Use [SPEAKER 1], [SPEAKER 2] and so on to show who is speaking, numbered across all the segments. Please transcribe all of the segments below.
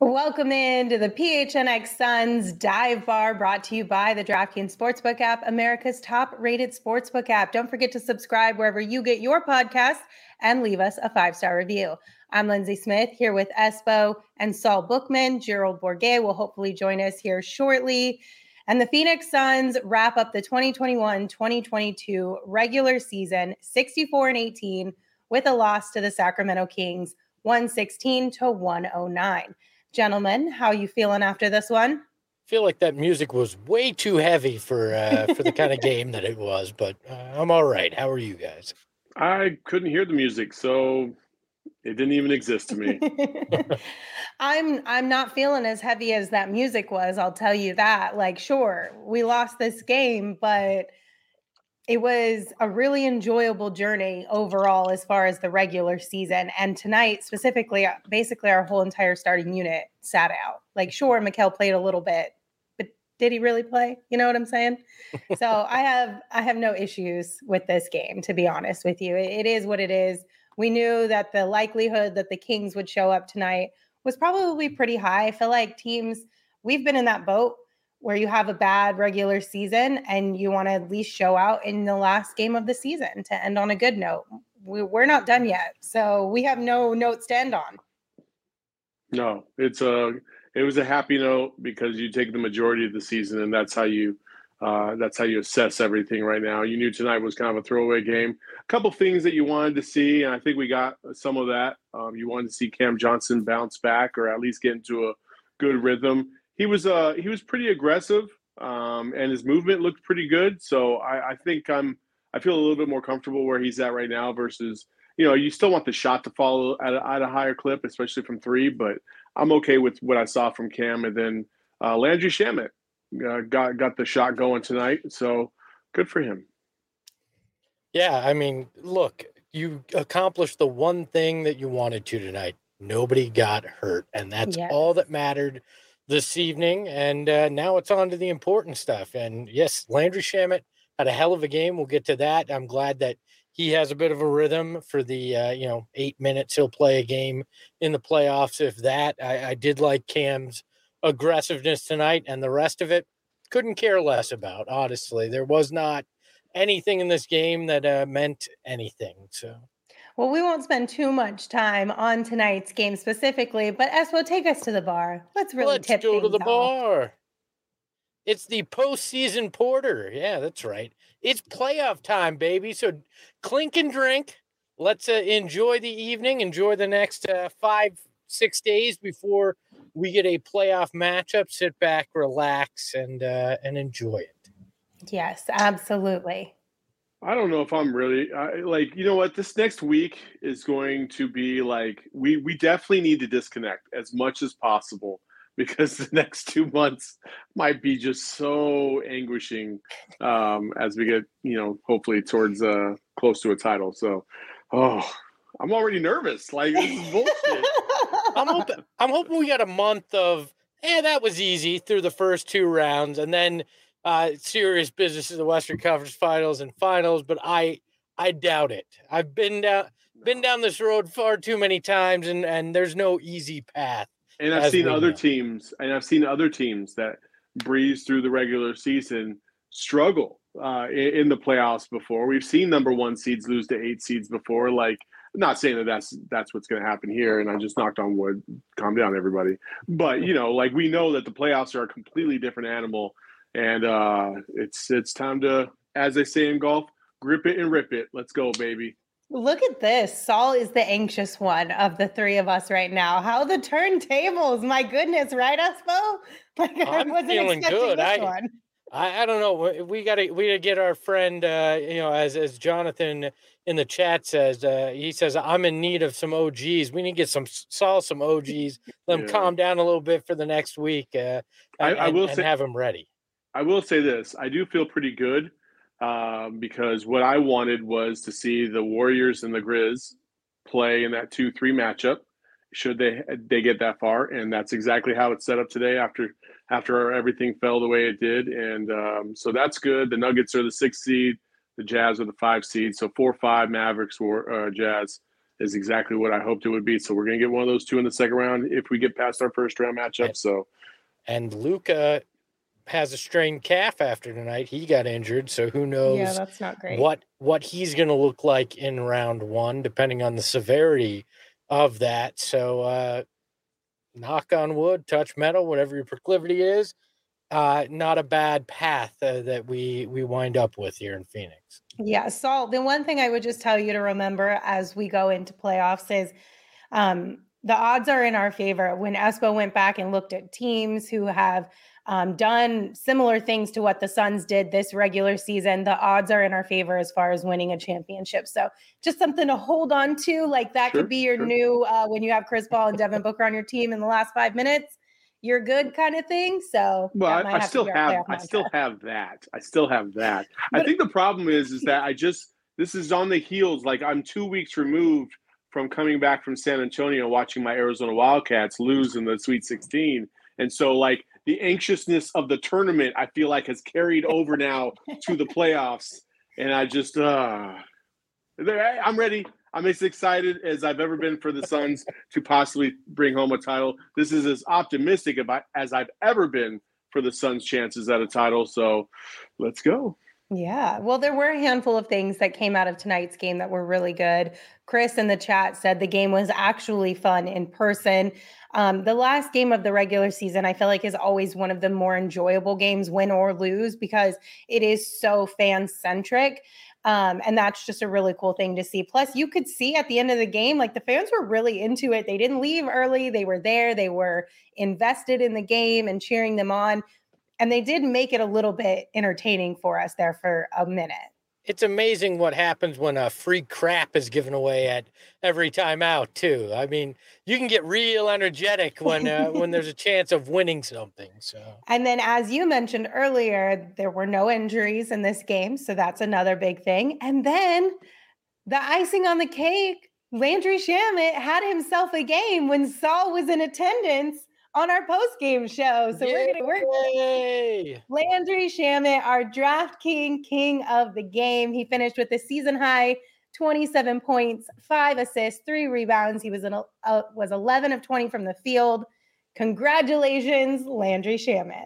[SPEAKER 1] Welcome into the PHNX Suns Dive Bar, brought to you by the DraftKings Sportsbook app, America's top-rated sportsbook app. Don't forget to subscribe wherever you get your podcasts and leave us a 5-star review. I'm Lindsay Smith here with Espo and Saul Bookman. Gerald Bourguet will hopefully join us here shortly. And the Phoenix Suns wrap up the 2021-2022 regular season 64-18 with a loss to the Sacramento Kings, 116-109. Gentlemen, how are you feeling after this one?
[SPEAKER 2] I feel like that music was way too heavy for the kind of game that it was, but I'm all right. How are you guys?
[SPEAKER 3] I couldn't hear the music, so it didn't even exist to me.
[SPEAKER 1] I'm not feeling as heavy as that music was, I'll tell you that. Like, sure, we lost this game, but it was a really enjoyable journey overall as far as the regular season. And tonight, specifically, basically our whole entire starting unit sat out. Like, sure, Mikal played a little bit, but did he really play? You know what I'm saying? So I have no issues with this game, to be honest with you. It is what it is. We knew that the likelihood that the Kings would show up tonight was probably pretty high. I feel like we've been in that boat where you have a bad regular season and you want to at least show out in the last game of the season to end on a good note. We're not done yet, so we have no notes to end on.
[SPEAKER 3] No, it was a happy note because you take the majority of the season, and that's how you assess everything right now. You knew tonight was kind of a throwaway game. A couple things that you wanted to see, and I think we got some of that. You wanted to see Cam Johnson bounce back or at least get into a good rhythm. He was pretty aggressive, and his movement looked pretty good. So I think I feel a little bit more comfortable where he's at right now versus, you still want the shot to follow at a higher clip, especially from three. But I'm okay with what I saw from Cam, and then Landry Shamet got the shot going tonight. So good for him.
[SPEAKER 2] Yeah, I mean, look, you accomplished the one thing that you wanted to tonight. Nobody got hurt, and that's all that mattered this evening. And now it's on to the important stuff. And yes, Landry Shamet had a hell of a game. We'll get to that. I'm glad that he has a bit of a rhythm for the 8 minutes he'll play a game in the playoffs. If that, I did like Cam's aggressiveness tonight, and the rest of it couldn't care less about. Honestly, there was not anything in this game that meant anything. So.
[SPEAKER 1] Well, we won't spend too much time on tonight's game specifically, but Espo, take us to the bar. Let's go
[SPEAKER 2] to the bar. It's the postseason porter. Yeah, that's right. It's playoff time, baby. So clink and drink. Let's enjoy the evening. Enjoy the next 5-6 days before we get a playoff matchup. Sit back, relax, and enjoy it.
[SPEAKER 1] Yes, absolutely.
[SPEAKER 3] I don't know if I'm really you know what, this next week is going to be like, we definitely need to disconnect as much as possible because the next 2 months might be just so anguishing as we get, hopefully towards close to a title. So, I'm already nervous. Like, this is bullshit.
[SPEAKER 2] I'm hoping we got a month of, that was easy through the first 2 rounds, and then serious business in the Western Conference Finals and Finals, but I doubt it. I've been down this road far too many times, and there's no easy path.
[SPEAKER 3] And I've seen other teams that breeze through the regular season struggle in the playoffs before. We've seen number 1 seeds lose to 8 seeds before. Like, I'm not saying that's what's going to happen here, and I just knocked on wood. Calm down, everybody. But we know that the playoffs are a completely different animal. And it's time to, as they say in golf, grip it and rip it. Let's go, baby.
[SPEAKER 1] Look at this. Saul is the anxious one of the 3 of us right now. How the turntables. My goodness, right, Espo? Like, I wasn't
[SPEAKER 2] feeling good.
[SPEAKER 1] This one.
[SPEAKER 2] I don't know. We gotta get our friend, as Jonathan in the chat says, he says, I'm in need of some OGs. We need to get some OGs. Let them calm down a little bit for the next week and have them ready.
[SPEAKER 3] I will say this. I do feel pretty good because what I wanted was to see the Warriors and the Grizz play in that 2-3 matchup should they get that far. And that's exactly how it's set up today after everything fell the way it did. And so that's good. The Nuggets are the 6th seed. The Jazz are the 5 seed. So 4-5 Mavericks or Jazz is exactly what I hoped it would be. So we're going to get one of those two in the second round if we get past our first round matchup.
[SPEAKER 2] And Luka has a strained calf after tonight. He got injured, so who knows?
[SPEAKER 1] Yeah, that's not great.
[SPEAKER 2] What he's going to look like in round one, depending on the severity of that. So, knock on wood, touch metal, whatever your proclivity is. Not a bad path that we wind up with here in Phoenix.
[SPEAKER 1] Yeah, Saul, the one thing I would just tell you to remember as we go into playoffs is the odds are in our favor. When Espo went back and looked at teams who have done similar things to what the Suns did this regular season, the odds are in our favor as far as winning a championship. So just something to hold on to. Like that could be your new, when you have Chris Paul and Devin Booker on your team in the last 5 minutes, you're good kind of thing. So
[SPEAKER 3] I still have that. I think the problem is that this is on the heels. Like I'm 2 weeks removed from coming back from San Antonio, watching my Arizona Wildcats lose in the Sweet 16. And so like the anxiousness of the tournament, I feel like has carried over now to the playoffs. And I just, I'm ready. I'm as excited as I've ever been for the Suns to possibly bring home a title. This is as optimistic as I've ever been for the Suns' chances at a title. So let's go.
[SPEAKER 1] Yeah. Well, there were a handful of things that came out of tonight's game that were really good. Chris in the chat said the game was actually fun in person. The last game of the regular season, I feel like is always one of the more enjoyable games, win or lose, because it is so fan-centric. And that's just a really cool thing to see. Plus, you could see at the end of the game, like the fans were really into it. They didn't leave early. They were there. They were invested in the game and cheering them on. And they did make it a little bit entertaining for us there for a minute.
[SPEAKER 2] It's amazing what happens when a free crap is given away at every timeout, too. I mean, you can get real energetic when there's a chance of winning something. So,
[SPEAKER 1] and then, as you mentioned earlier, there were no injuries in this game, so that's another big thing. And then the icing on the cake, Landry Shamet had himself a game when Saul was in attendance on our post-game show. So we're Landry Shamet, our draft king of the game. He finished with a season high 27 points, 5 assists, 3 rebounds. He was 11 of 20 from the field. Congratulations, Landry Shamet.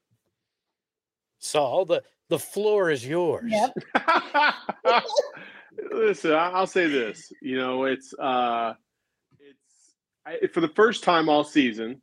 [SPEAKER 2] Saul, the floor is yours.
[SPEAKER 1] Yep.
[SPEAKER 3] Listen, I'll say this. You know, it's for the first time all season,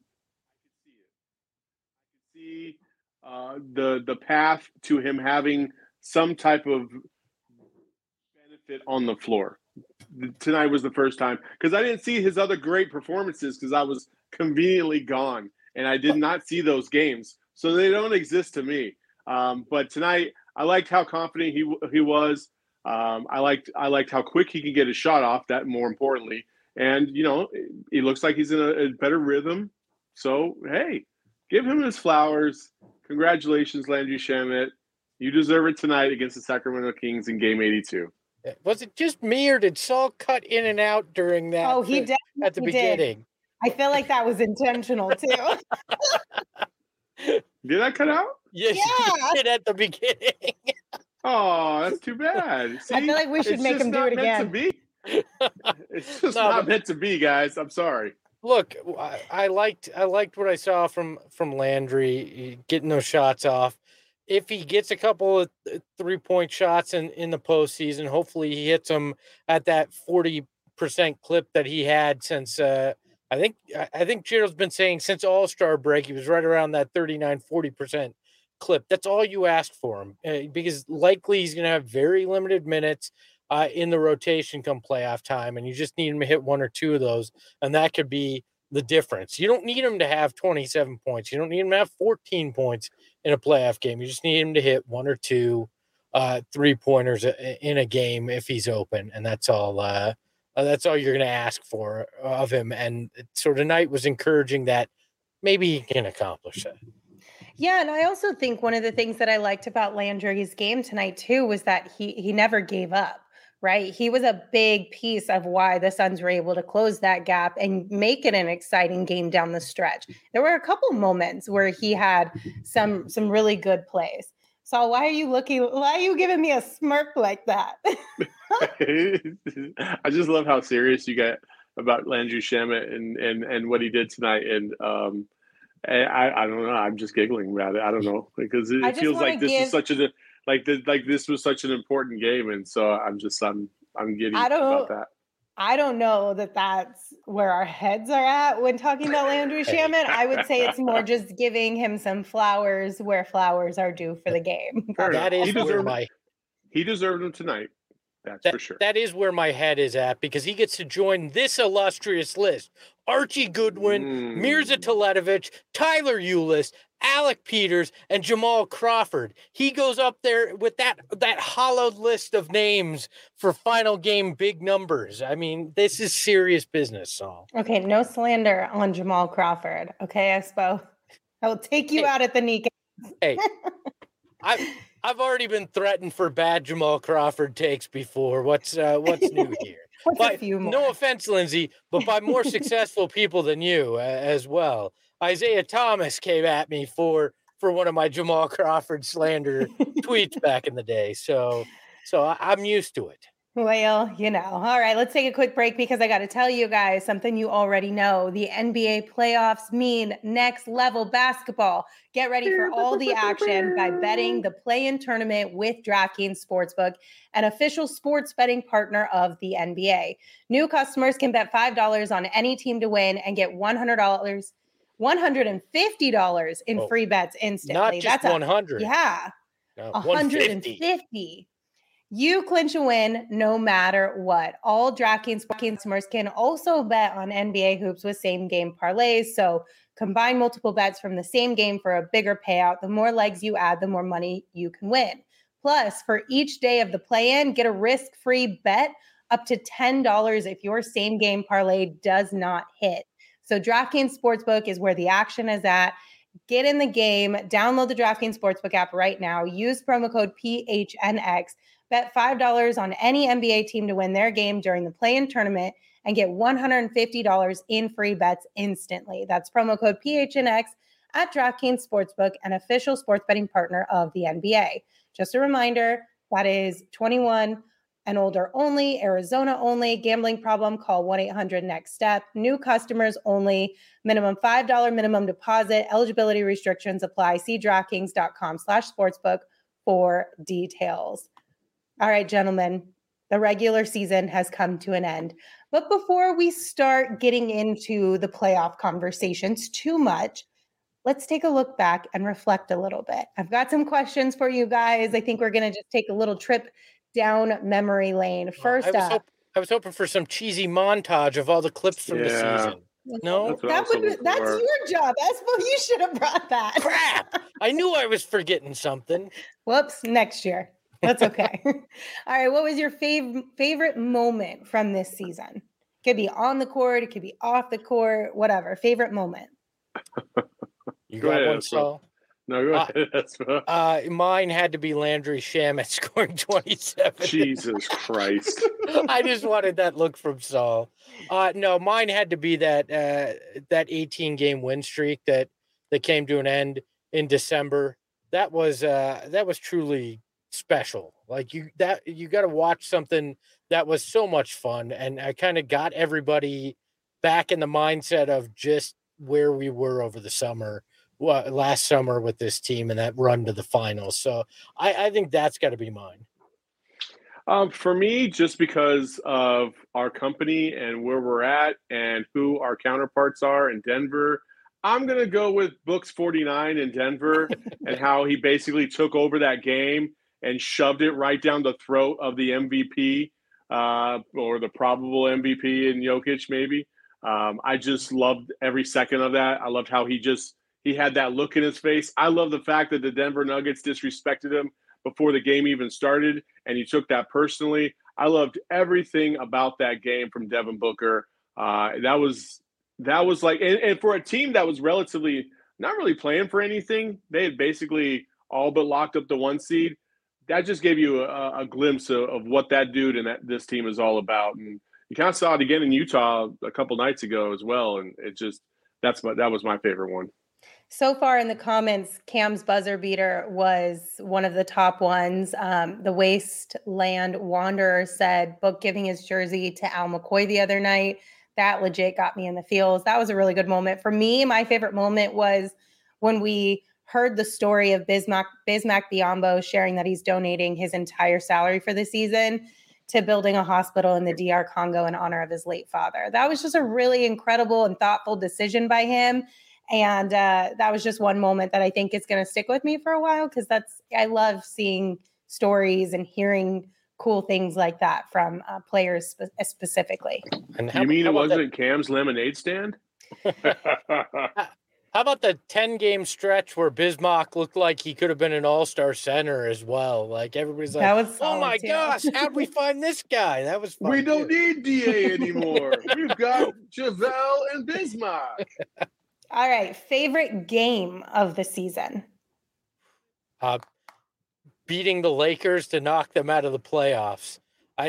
[SPEAKER 3] the path to him having some type of benefit on the floor. Tonight was the first time, because I didn't see his other great performances because I was conveniently gone and I did not see those games, so they don't exist to me. But tonight, I liked how confident he was. I liked how quick he could get his shot off. That more importantly, and you know, he looks like he's in a better rhythm. So hey, give him his flowers. Congratulations, Landry Shamet. You deserve it tonight against the Sacramento Kings in Game 82.
[SPEAKER 2] Was it just me, or did Saul cut in and out during that?
[SPEAKER 1] Oh, he definitely
[SPEAKER 2] at the beginning.
[SPEAKER 1] I feel like that was intentional too.
[SPEAKER 3] Did I cut out?
[SPEAKER 2] Yes, you did at the beginning.
[SPEAKER 3] Oh, that's too bad. See,
[SPEAKER 1] I feel like we should make him do it again.
[SPEAKER 3] It's just not meant to be, guys. I'm sorry.
[SPEAKER 2] Look, I liked what I saw from Landry getting those shots off. If he gets a couple of 3-point shots in the postseason, hopefully he hits them at that 40% clip that he had since I think Gerald's been saying since All-Star break, he was right around that 39-40% clip. That's all you ask for him, because likely he's going to have very limited minutes in the rotation come playoff time, and you just need him to hit 1 or 2 of those, and that could be the difference. You don't need him to have 27 points. You don't need him to have 14 points in a playoff game. You just need him to hit 1 or 2 3-pointers in a game if he's open, and that's all you're going to ask for of him. And so tonight was encouraging that maybe he can accomplish that.
[SPEAKER 1] Yeah, and I also think one of the things that I liked about Landry's game tonight too was that he never gave up. Right. He was a big piece of why the Suns were able to close that gap and make it an exciting game down the stretch. There were a couple moments where he had some really good plays. So why are you giving me a smirk like that?
[SPEAKER 3] I just love how serious you get about Landry Shamet and what he did tonight. And I don't know. I'm just giggling about it. I don't know, because it feels like this is such a this was such an important game, and so I'm giddy about that.
[SPEAKER 1] I don't know that that's where our heads are at when talking about Landry Shamet. I would say it's more just giving him some flowers where flowers are due for the game.
[SPEAKER 3] He deserved them tonight. That's for sure.
[SPEAKER 2] That is where my head is at, because he gets to join this illustrious list. Archie Goodwin, Mirza Teletovic, Tyler Ulis, Alec Peters, and Jamal Crawford. He goes up there with that hollowed list of names for final game big numbers. I mean, this is serious business, Saul.
[SPEAKER 1] Okay, no slander on Jamal Crawford. Okay, Espo? I will take you out at the kneecap.
[SPEAKER 2] Hey, I've already been threatened for bad Jamal Crawford takes before. What's new here?
[SPEAKER 1] A few more?
[SPEAKER 2] No offense, Lindsay, but by more successful people than you as well. Isaiah Thomas came at me for one of my Jamal Crawford slander tweets back in the day. So I'm used to it.
[SPEAKER 1] Well, all right, let's take a quick break, because I got to tell you guys something you already know. The NBA playoffs mean next level basketball. Get ready for all the action by betting the play-in tournament with DraftKings Sportsbook, an official sports betting partner of the NBA. New customers can bet $5 on any team to win and get $150 in free bets instantly.
[SPEAKER 2] Not just 100.
[SPEAKER 1] Yeah. No, 150. You clinch a win no matter what. All DraftKings customers can also bet on NBA hoops with same-game parlays. So combine multiple bets from the same game for a bigger payout. The more legs you add, the more money you can win. Plus, for each day of the play-in, get a risk-free bet up to $10 if your same-game parlay does not hit. So DraftKings Sportsbook is where the action is at. Get in the game. Download the DraftKings Sportsbook app right now. Use promo code PHNX. Bet $5 on any NBA team to win their game during the play-in tournament and get $150 in free bets instantly. That's promo code PHNX at DraftKings Sportsbook, an official sports betting partner of the NBA. Just a reminder, that is 21 and older only, Arizona only. Gambling problem, call 1-800-NEXT-STEP. New customers only. Minimum $5 minimum deposit. Eligibility restrictions apply. See DraftKings.com/sportsbook for details. All right, gentlemen, the regular season has come to an end. But before we start getting into the playoff conversations too much, let's take a look back and reflect a little bit. I've got some questions for you guys. I think we're going to just take a little trip down memory lane. First
[SPEAKER 2] I was hoping for some cheesy montage of all the clips from the season. No,
[SPEAKER 1] that's your job. You should have brought that.
[SPEAKER 2] Crap! I knew I was forgetting something.
[SPEAKER 1] Whoops! Next year. That's okay. All right. What was your favorite moment from this season? Could be on the court. It could be off the court. Whatever. Favorite moment.
[SPEAKER 2] You got one, Saul?
[SPEAKER 3] No, go ahead. That's
[SPEAKER 2] mine had to be Landry Shamet scoring 27.
[SPEAKER 3] Jesus Christ.
[SPEAKER 2] I just wanted that look from Saul. No, mine had to be that 18-game win streak that came to an end in December. That was truly special. Like you got to watch something that was so much fun, and I kind of got everybody back in the mindset of just where we were over the summer, last summer with this team and that run to the finals. So I think that's got to be mine.
[SPEAKER 3] For me, just because of our company and where we're at and who our counterparts are in Denver, I'm going to go with Books 49 in Denver and how he basically took over that game and shoved it right down the throat of the MVP or the probable MVP in Jokic, maybe. I just loved every second of that. I loved how he had that look in his face. I love the fact that the Denver Nuggets disrespected him before the game even started, and he took that personally. I loved everything about that game from Devin Booker. That was like, and for a team that was relatively not really playing for anything, they had basically all but locked up the 1 seed. That just gave you a glimpse of what that dude and this team is all about. And you kind of saw it again in Utah a couple nights ago as well. And that was my favorite one.
[SPEAKER 1] So far in the comments, Cam's buzzer beater was one of the top ones. The Wasteland Wanderer said Book giving his jersey to Al McCoy the other night. That legit got me in the feels. That was a really good moment. For me, my favorite moment was when we heard the story of Bismack Biyombo sharing that he's donating his entire salary for the season to building a hospital in the DR Congo in honor of his late father. That was just a really incredible and thoughtful decision by him. And that was just one moment that I think is going to stick with me for a while, because I love seeing stories and hearing cool things like that from players specifically.
[SPEAKER 3] And you mean it wasn't Cam's lemonade stand?
[SPEAKER 2] How about the 10-game stretch where Bismack looked like he could have been an all-star center as well? Like, everybody's like, oh my gosh, how'd we find this guy? That was fun.
[SPEAKER 3] We don't need DA anymore. We've got JaVale and Bismack.
[SPEAKER 1] All right. Favorite game of the season?
[SPEAKER 2] Beating the Lakers to knock them out of the playoffs.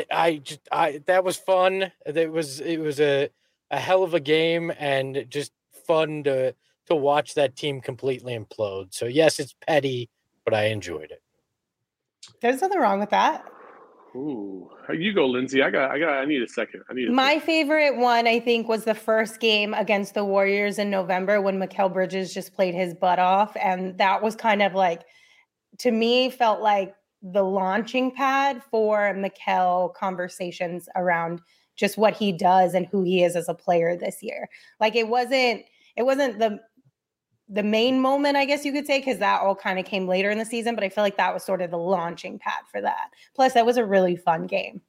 [SPEAKER 2] That was fun. It was a hell of a game, and just fun to watch that team completely implode. So yes, it's petty, but I enjoyed it.
[SPEAKER 1] There's nothing wrong with that.
[SPEAKER 3] Ooh, you go, Lindsay. I need a second.
[SPEAKER 1] My favorite one, I think, was the first game against the Warriors in November when Mikal Bridges just played his butt off. And that was kind of like, to me, felt like the launching pad for Mikal conversations around just what he does and who he is as a player this year. Like, it wasn't the main moment, I guess you could say, because that all kind of came later in the season, but I feel like that was sort of the launching pad for that. Plus, that was a really fun game.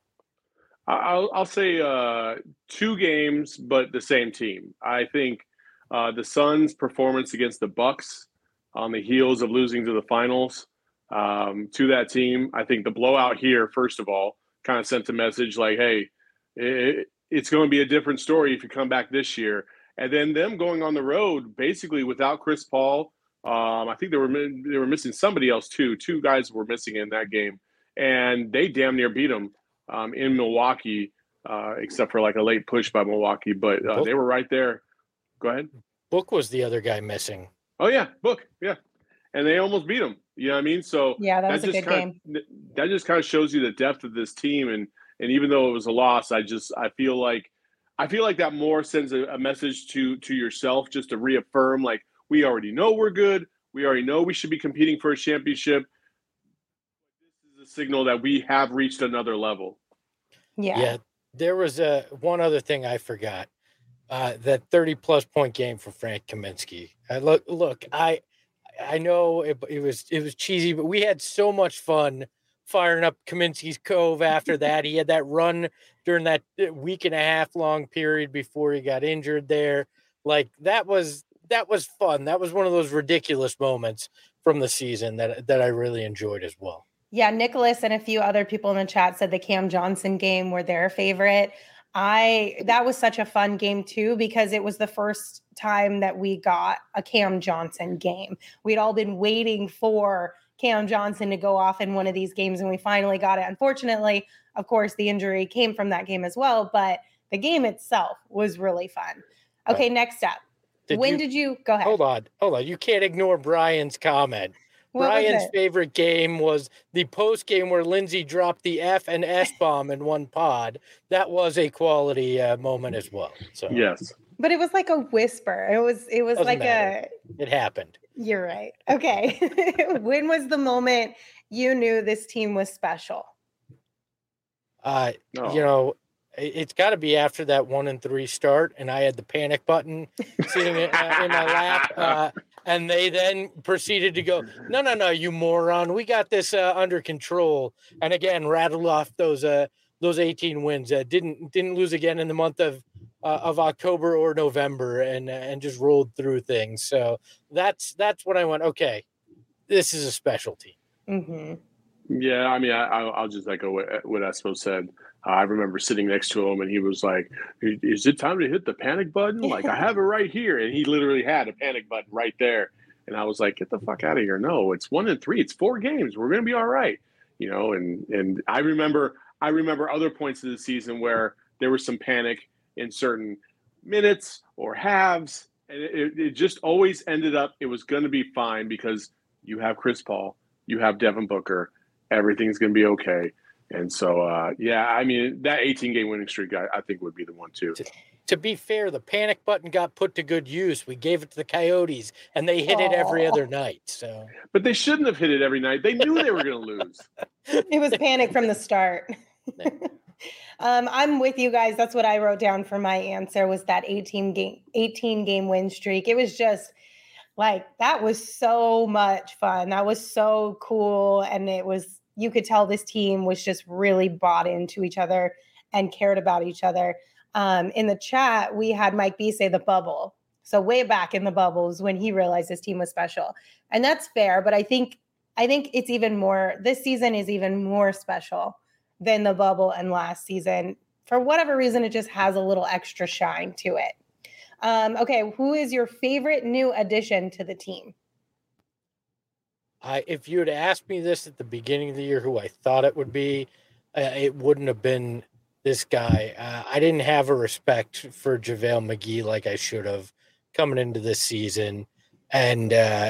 [SPEAKER 3] I'll say 2 games, but the same team. I think the Suns' performance against the Bucks on the heels of losing to the finals to that team. I think the blowout here, first of all, kind of sent a message like, hey, it's going to be a different story if you come back this year. And then them going on the road, basically without Chris Paul. I think they were missing somebody else too. 2 guys were missing in that game, and they damn near beat them in Milwaukee, except for like a late push by Milwaukee. But they were right there. Go ahead.
[SPEAKER 2] Book was the other guy missing.
[SPEAKER 3] Oh yeah, Book. Yeah, and they almost beat him. You know what I mean? So
[SPEAKER 1] yeah, that was a good game.
[SPEAKER 3] That just kind of shows you the depth of this team, and even though it was a loss, I feel like that more sends a message to yourself, just to reaffirm, like, we already know we're good. We already know we should be competing for a championship. This is a signal that we have reached another level.
[SPEAKER 1] Yeah.
[SPEAKER 2] There was one other thing I forgot. That 30-plus point game for Frank Kaminsky. Look, I know it was cheesy, but we had so much fun firing up Kaminsky's Cove after that. He had that run during that week and a half long period before he got injured there. Like, that was fun. That was one of those ridiculous moments from the season that I really enjoyed as well.
[SPEAKER 1] Yeah, Nicholas and a few other people in the chat said the Cam Johnson game were their favorite. That was such a fun game too, because it was the first time that we got a Cam Johnson game. We'd all been waiting for Cam Johnson to go off in one of these games, and we finally got it. Unfortunately, of course, the injury came from that game as well, but the game itself was really fun. Okay, next up. Did you go ahead?
[SPEAKER 2] Hold on. You can't ignore Brian's comment. Brian's favorite game was the post game where Lindsay dropped the F and S bomb in one pod. That was a quality moment as well. So
[SPEAKER 3] yes,
[SPEAKER 1] but it was like a whisper. It was like
[SPEAKER 2] it happened.
[SPEAKER 1] You're right. Okay. When was the moment you knew this team was special?
[SPEAKER 2] You know, it's got to be after that 1-3 start, and I had the panic button sitting in my lap. And they then proceeded to go, no, you moron. We got this under control. And again, rattled off those 18 wins. Didn't lose again in the month of October or November, and just rolled through things. So that's when I went, okay, this is a specialty.
[SPEAKER 1] Mm-hmm.
[SPEAKER 3] Yeah, I mean, I'll just echo what Espo said. I remember sitting next to him, and he was like, "Is it time to hit the panic button? Like, I have it right here." And he literally had a panic button right there. And I was like, "Get the fuck out of here! No, it's 1-3. It's 4 games. We're gonna be all right." You know. And I remember other points of the season where there was some panic in certain minutes or halves, And it just always ended up, it was going to be fine because you have Chris Paul, you have Devin Booker, everything's going to be okay. And so, yeah, I mean, that 18-game winning streak, I think would be the one too.
[SPEAKER 2] To be fair, the panic button got put to good use. We gave it to the Coyotes, and they hit it every other night. So,
[SPEAKER 3] but they shouldn't have hit it every night. They knew they were going to lose.
[SPEAKER 1] It was panic from the start. I'm with you guys. That's what I wrote down for my answer was that 18 game win streak. It was just like, that was so much fun. That was so cool. And you could tell this team was just really bought into each other and cared about each other. In the chat, we had Mike B say the bubble. So way back in the bubbles when he realized his team was special. And that's fair. But I think it's even more, this season is even more special than the bubble and last season. For whatever reason, it just has a little extra shine to it. Okay, who is your favorite new addition to the team?
[SPEAKER 2] If you had asked me this at the beginning of the year, who I thought it would be, it wouldn't have been this guy. I didn't have a respect for JaVale McGee like I should have coming into this season. And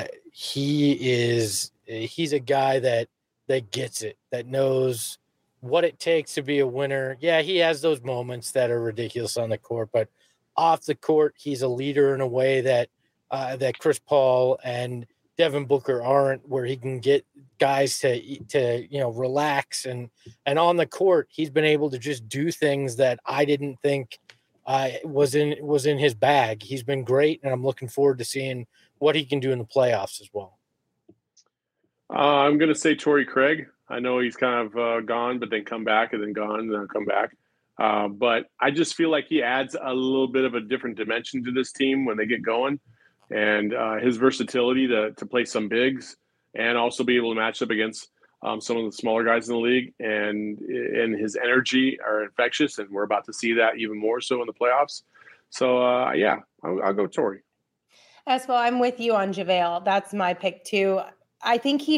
[SPEAKER 2] he's a guy that gets it, that knows what it takes to be a winner. Yeah, he has those moments that are ridiculous on the court, but off the court, he's a leader in a way that Chris Paul and Devin Booker aren't, where he can get guys to relax, and on the court, he's been able to just do things that I didn't think was in his bag. He's been great, and I'm looking forward to seeing what he can do in the playoffs as well.
[SPEAKER 3] I'm going to say Torrey Craig. I know he's kind of gone, but then come back, and then gone, and then come back. But I just feel like he adds a little bit of a different dimension to this team when they get going, and his versatility to play some bigs and also be able to match up against some of the smaller guys in the league, and his energy are infectious, and we're about to see that even more so in the playoffs. So, yeah, I'll go Torrey.
[SPEAKER 1] As well, I'm with you on JaVale. That's my pick too. I think he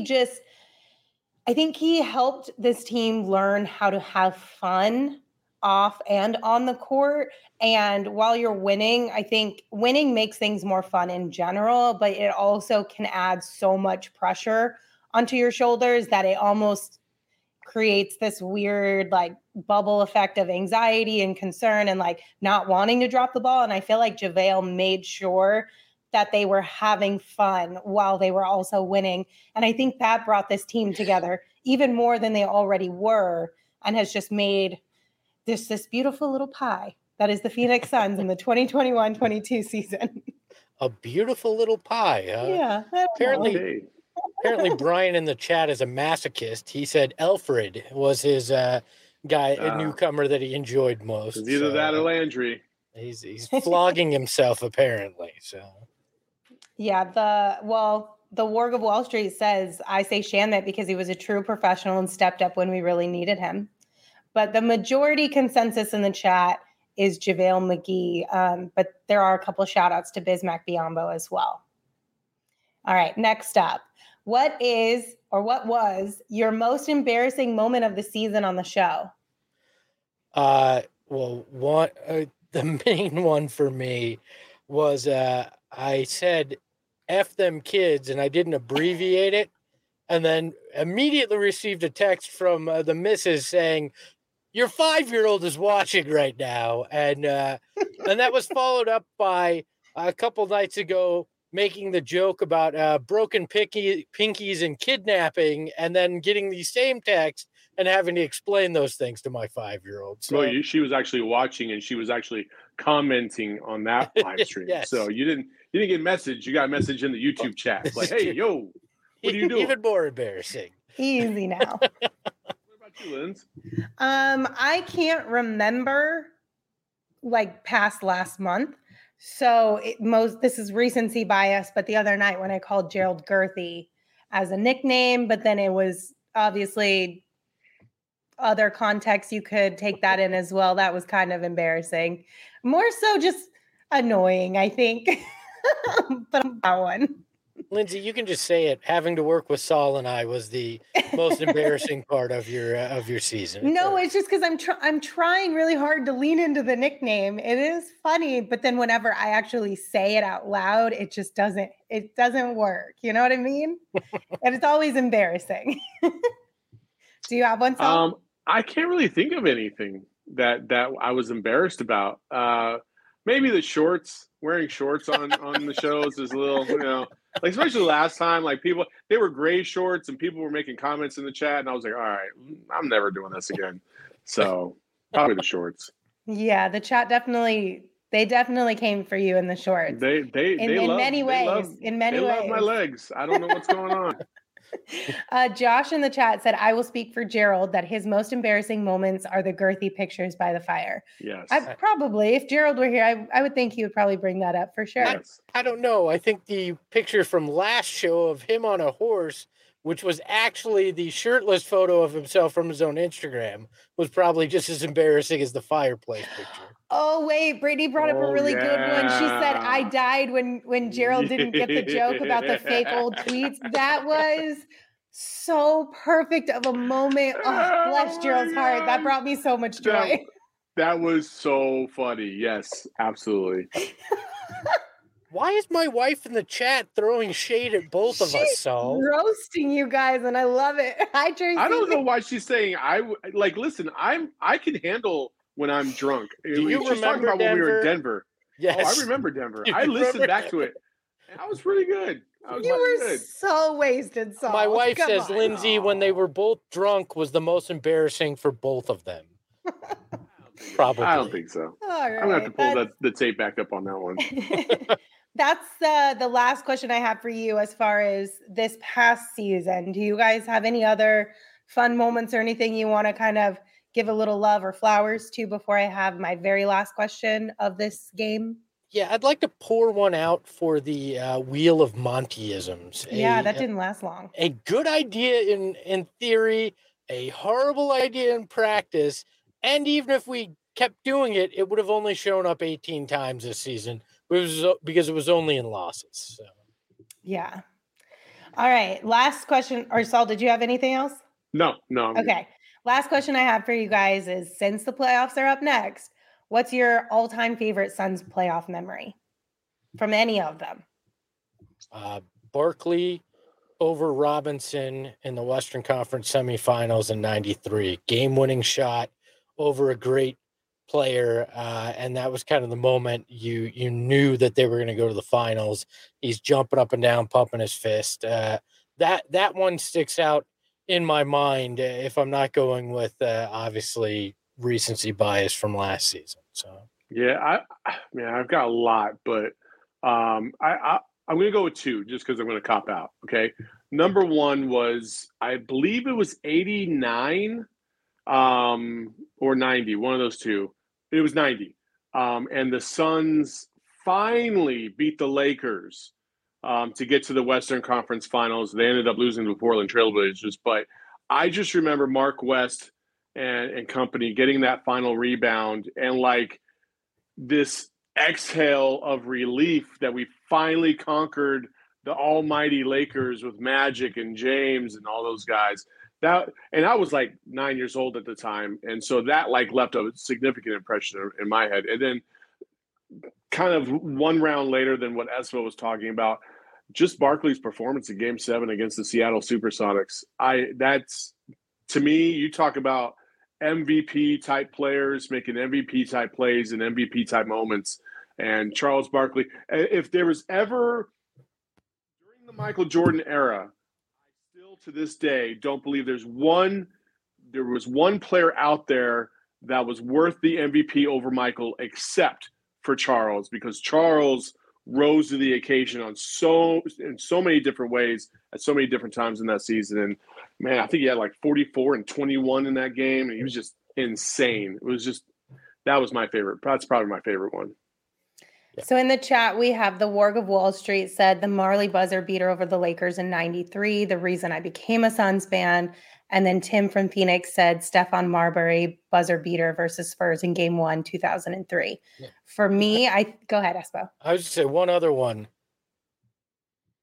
[SPEAKER 1] helped this team learn how to have fun off and on the court. And while you're winning, I think winning makes things more fun in general, but it also can add so much pressure onto your shoulders that it almost creates this weird like bubble effect of anxiety and concern and like not wanting to drop the ball. And I feel like JaVale made sure that they were having fun while they were also winning. And I think that brought this team together even more than they already were, and has just made this beautiful little pie that is the Phoenix Suns in the 2021-22 season.
[SPEAKER 2] A beautiful little pie.
[SPEAKER 1] Yeah.
[SPEAKER 2] Apparently Brian in the chat is a masochist. He said Alfred was his a newcomer that he enjoyed most.
[SPEAKER 3] It's either that or Landry.
[SPEAKER 2] He's flogging himself apparently. So
[SPEAKER 1] yeah, the Warg of Wall Street says, I say Shamet because he was a true professional and stepped up when we really needed him. But the majority consensus in the chat is JaVale McGee. But there are a couple of shout outs to Bismack Biyombo as well. All right, next up. What was your most embarrassing moment of the season on the show?
[SPEAKER 2] The main one for me was I said F them kids, and I didn't abbreviate it, and then immediately received a text from the missus saying, your 5-year-old is watching right now. And that was followed up by a couple nights ago making the joke about broken pinkies and kidnapping, and then getting the same text and having to explain those things to my 5-year-old. So
[SPEAKER 3] she was actually watching, and she was actually commenting on that live stream.
[SPEAKER 2] Yes.
[SPEAKER 3] So you didn't get a message. You got a message in the YouTube chat. Like, hey, yo, what are you doing?
[SPEAKER 2] Even more embarrassing.
[SPEAKER 1] Easy now.
[SPEAKER 3] What about you, Linz?
[SPEAKER 1] I can't remember like past last month. So this is recency bias, but the other night when I called Gerald Girthy as a nickname, but then it was obviously other context you could take that in as well. That was kind of embarrassing. More so just annoying, I think. But that one.
[SPEAKER 2] Lindsay, you can just say it. Having to work with Saul and I was the most embarrassing part of your season.
[SPEAKER 1] No, it's just because I'm trying really hard to lean into the nickname. It is funny, but then whenever I actually say it out loud, it just doesn't work. You know what I mean? And it's always embarrassing. Do you have one, Saul?
[SPEAKER 3] I can't really think of anything that I was embarrassed about. Maybe the shorts, wearing shorts on the shows is a little, like especially last time, like they were gray shorts and people were making comments in the chat, and I was like, all right, I'm never doing this again. So probably the shorts.
[SPEAKER 1] Yeah, the chat definitely came for you in the shorts. In many ways. They love
[SPEAKER 3] my legs. I don't know what's going on.
[SPEAKER 1] Josh in the chat said, I will speak for Gerald that his most embarrassing moments are the girthy pictures by the fire.
[SPEAKER 3] Yes.
[SPEAKER 1] Probably, if Gerald were here, I would think he would probably bring that up for sure.
[SPEAKER 3] Yes.
[SPEAKER 2] I don't know. I think the picture from last show of him on a horse, which was actually the shirtless photo of himself from his own Instagram, was probably just as embarrassing as the fireplace picture.
[SPEAKER 1] Oh, wait, Brittany brought up a really good one. She said, I died when Gerald didn't get the joke about the fake old tweets. That was so perfect of a moment. Oh, bless Gerald's heart. That brought me so much joy.
[SPEAKER 3] That was so funny. Yes, absolutely.
[SPEAKER 2] Why is my wife in the chat throwing shade at both of us, Saul?
[SPEAKER 1] Roasting you guys, and I love it. Hi, Tracy.
[SPEAKER 3] I don't know why she's saying listen, I can handle when I'm drunk.
[SPEAKER 2] Do you remember
[SPEAKER 3] about when we were in Denver?
[SPEAKER 2] Yes.
[SPEAKER 3] Oh, I remember Denver. I listened back to it. And I was really good.
[SPEAKER 1] You were so wasted, Saul.
[SPEAKER 2] My wife says Lindsay, when they were both drunk, was the most embarrassing for both of them. Probably.
[SPEAKER 3] I don't think so.
[SPEAKER 1] All right.
[SPEAKER 3] I'm going to have to pull the tape back up on that one.
[SPEAKER 1] That's the last question I have for you as far as this past season. Do you guys have any other fun moments or anything you want to kind of give a little love or flowers to before I have my very last question of this game?
[SPEAKER 2] Yeah, I'd like to pour one out for the Wheel of Montyisms.
[SPEAKER 1] Yeah, that didn't last long.
[SPEAKER 2] A good idea in theory, a horrible idea in practice, and even if we kept doing it, it would have only shown up 18 times this season because it was only in losses. So.
[SPEAKER 1] Yeah. All right, last question. Or Saul, did you have anything else?
[SPEAKER 3] No.
[SPEAKER 1] Okay. Last question I have for you guys is, since the playoffs are up next, what's your all-time favorite Suns playoff memory from any of them?
[SPEAKER 2] Barkley over Robinson in the Western Conference semifinals in '93. Game-winning shot over a great player, and that was kind of the moment you knew that they were going to go to the finals. He's jumping up and down, pumping his fist. That one sticks out in my mind if I'm not going with obviously recency bias from last season. So
[SPEAKER 3] yeah, I've got a lot, but I'm going to go with two just because I'm going to cop out. Okay, number one was, I believe it was 89 or 90, one of those two. It was 90, and the Suns finally beat the Lakers to get to the Western Conference Finals. They ended up losing to the Portland Trailblazers, but I just remember Mark West and company getting that final rebound and like this exhale of relief that we finally conquered the almighty Lakers with Magic and James and all those guys. And I was like 9 years old at the time, and so that like left a significant impression in my head. And then kind of one round later than what Espo was talking about, just Barkley's performance in Game 7 against the Seattle Supersonics. That's, to me, you talk about MVP type players making MVP type plays and MVP type moments. And Charles Barkley, if there was ever during the Michael Jordan era, I still to this day don't believe there was one player out there that was worth the MVP over Michael except for Charles, because Charles rose to the occasion in so many different ways at so many different times in that season. And man, I think he had like 44 and 21 in that game. And he was just insane. That was my favorite. That's probably my favorite one.
[SPEAKER 1] So in the chat, we have the Warg of Wall Street said the Marley buzzer beater over the Lakers in '93, the reason I became a Suns fan. And then Tim from Phoenix said Stephon Marbury buzzer beater versus Spurs in Game 1, 2003. Yeah. For me, go ahead, Espo.
[SPEAKER 2] I was just say one other one.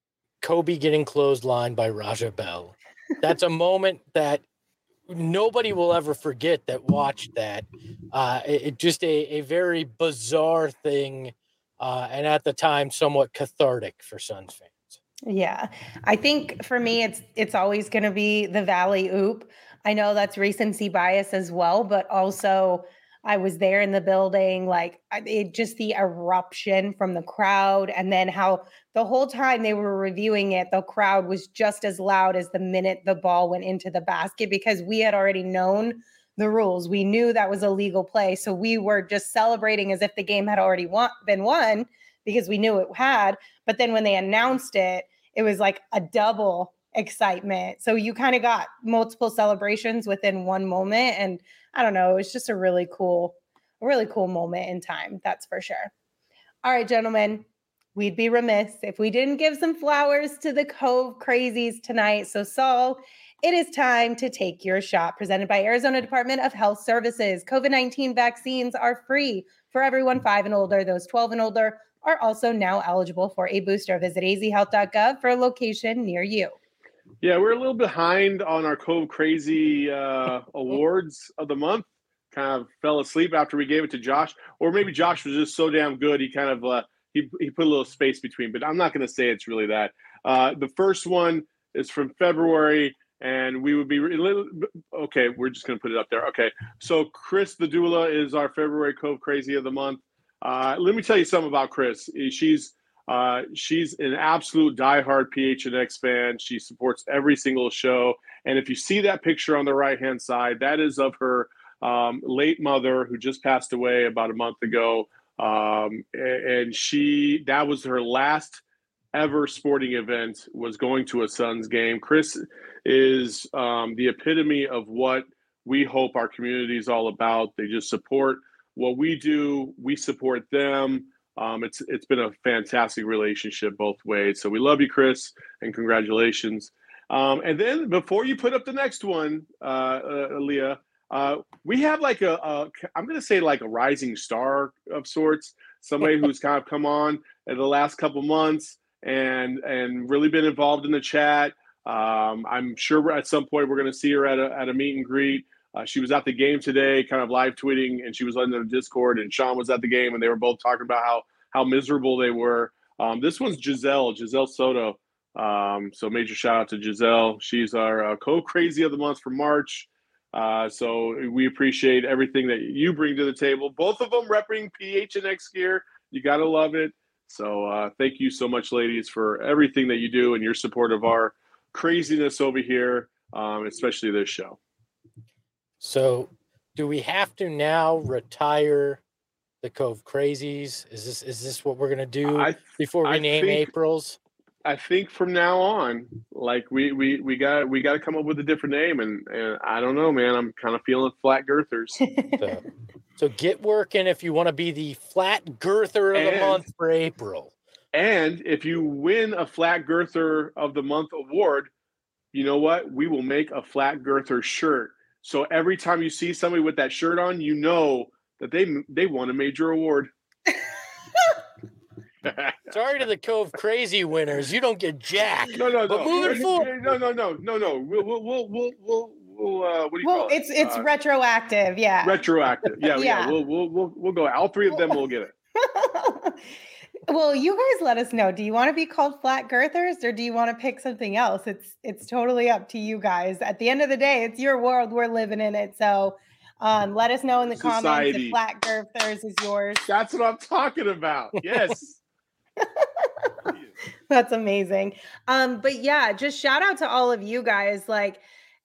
[SPEAKER 2] Kobe getting clotheslined by Raja Bell. That's a moment that nobody will ever forget that watched that. It just a very bizarre thing, and at the time, somewhat cathartic for Suns fans.
[SPEAKER 1] Yeah. I think for me, it's always going to be the Valley Oop. I know that's recency bias as well, but also I was there in the building, like it just the eruption from the crowd, and then how the whole time they were reviewing it, the crowd was just as loud as the minute the ball went into the basket, because we had already known the rules. We knew that was a legal play. So we were just celebrating as if the game had already been won, because we knew it had. But then when they announced it, it was like a double excitement. So you kind of got multiple celebrations within one moment. And I don't know, it's just a really cool moment in time. That's for sure. All right, gentlemen, we'd be remiss if we didn't give some flowers to the Cove Crazies tonight. So Saul, it is time to take your shot, presented by Arizona Department of Health Services. COVID-19 vaccines are free for everyone 5 and older. Those 12 and older are also now eligible for a booster. Visit azhealth.gov for a location near you.
[SPEAKER 3] Yeah, we're a little behind on our Cove Crazy awards of the month. Kind of fell asleep after we gave it to Josh, or maybe Josh was just so damn good he kind of he put a little space between. But I'm not going to say it's really that. The first one is from February, and we would be okay. We're just going to put it up there. Okay, so Chris the doula is our February Cove Crazy of the month. Let me tell you something about Chris. She's an absolute diehard PHNX fan. She supports every single show. And if you see that picture on the right-hand side, that is of her late mother, who just passed away about a month ago. And that was her last ever sporting event, was going to a Suns game. Chris is the epitome of what we hope our community is all about. They just support what we do. We support them. It's been a fantastic relationship both ways. So we love you, Chris, and congratulations. And then before you put up the next one, Leah, we have like I'm going to say like a rising star of sorts, somebody who's kind of come on in the last couple months and really been involved in the chat. I'm sure at some point we're going to see her at a meet and greet. She was at the game today, kind of live tweeting, and she was on the Discord, and Sean was at the game, and they were both talking about how miserable they were. This one's Giselle Soto. So major shout out to Giselle. She's our Cove Crazy of the month for March. So we appreciate everything that you bring to the table. Both of them repping PHNX gear. You got to love it. So thank you so much, ladies, for everything that you do and your support of our craziness over here, especially this show.
[SPEAKER 2] So do we have to now retire the Cove Crazies? Is this what we're going to do before we name April's?
[SPEAKER 3] I think from now on, like we got to come up with a different name, and I don't know, man. I'm kind of feeling flat girthers.
[SPEAKER 2] So get working if you want to be the flat girther of the month for April.
[SPEAKER 3] And if you win a flat girther of the month award, you know what? We will make a flat girther shirt. So every time you see somebody with that shirt on, you know that they won a major award.
[SPEAKER 2] Sorry to the Cove Crazy winners, you don't get jack.
[SPEAKER 3] No.
[SPEAKER 2] But moving forward,
[SPEAKER 3] no. We'll what do you call it?
[SPEAKER 1] It's retroactive, yeah.
[SPEAKER 3] Retroactive, yeah. We'll go. All three of them will get it.
[SPEAKER 1] Well, you guys let us know. Do you want to be called flat girthers, or do you want to pick something else? It's totally up to you guys. At the end of the day, it's your world. We're living in it. So let us know in the comments if flat girthers is yours.
[SPEAKER 3] That's what I'm talking about. Yes.
[SPEAKER 1] That's amazing. But yeah, just shout out to all of you guys. Like,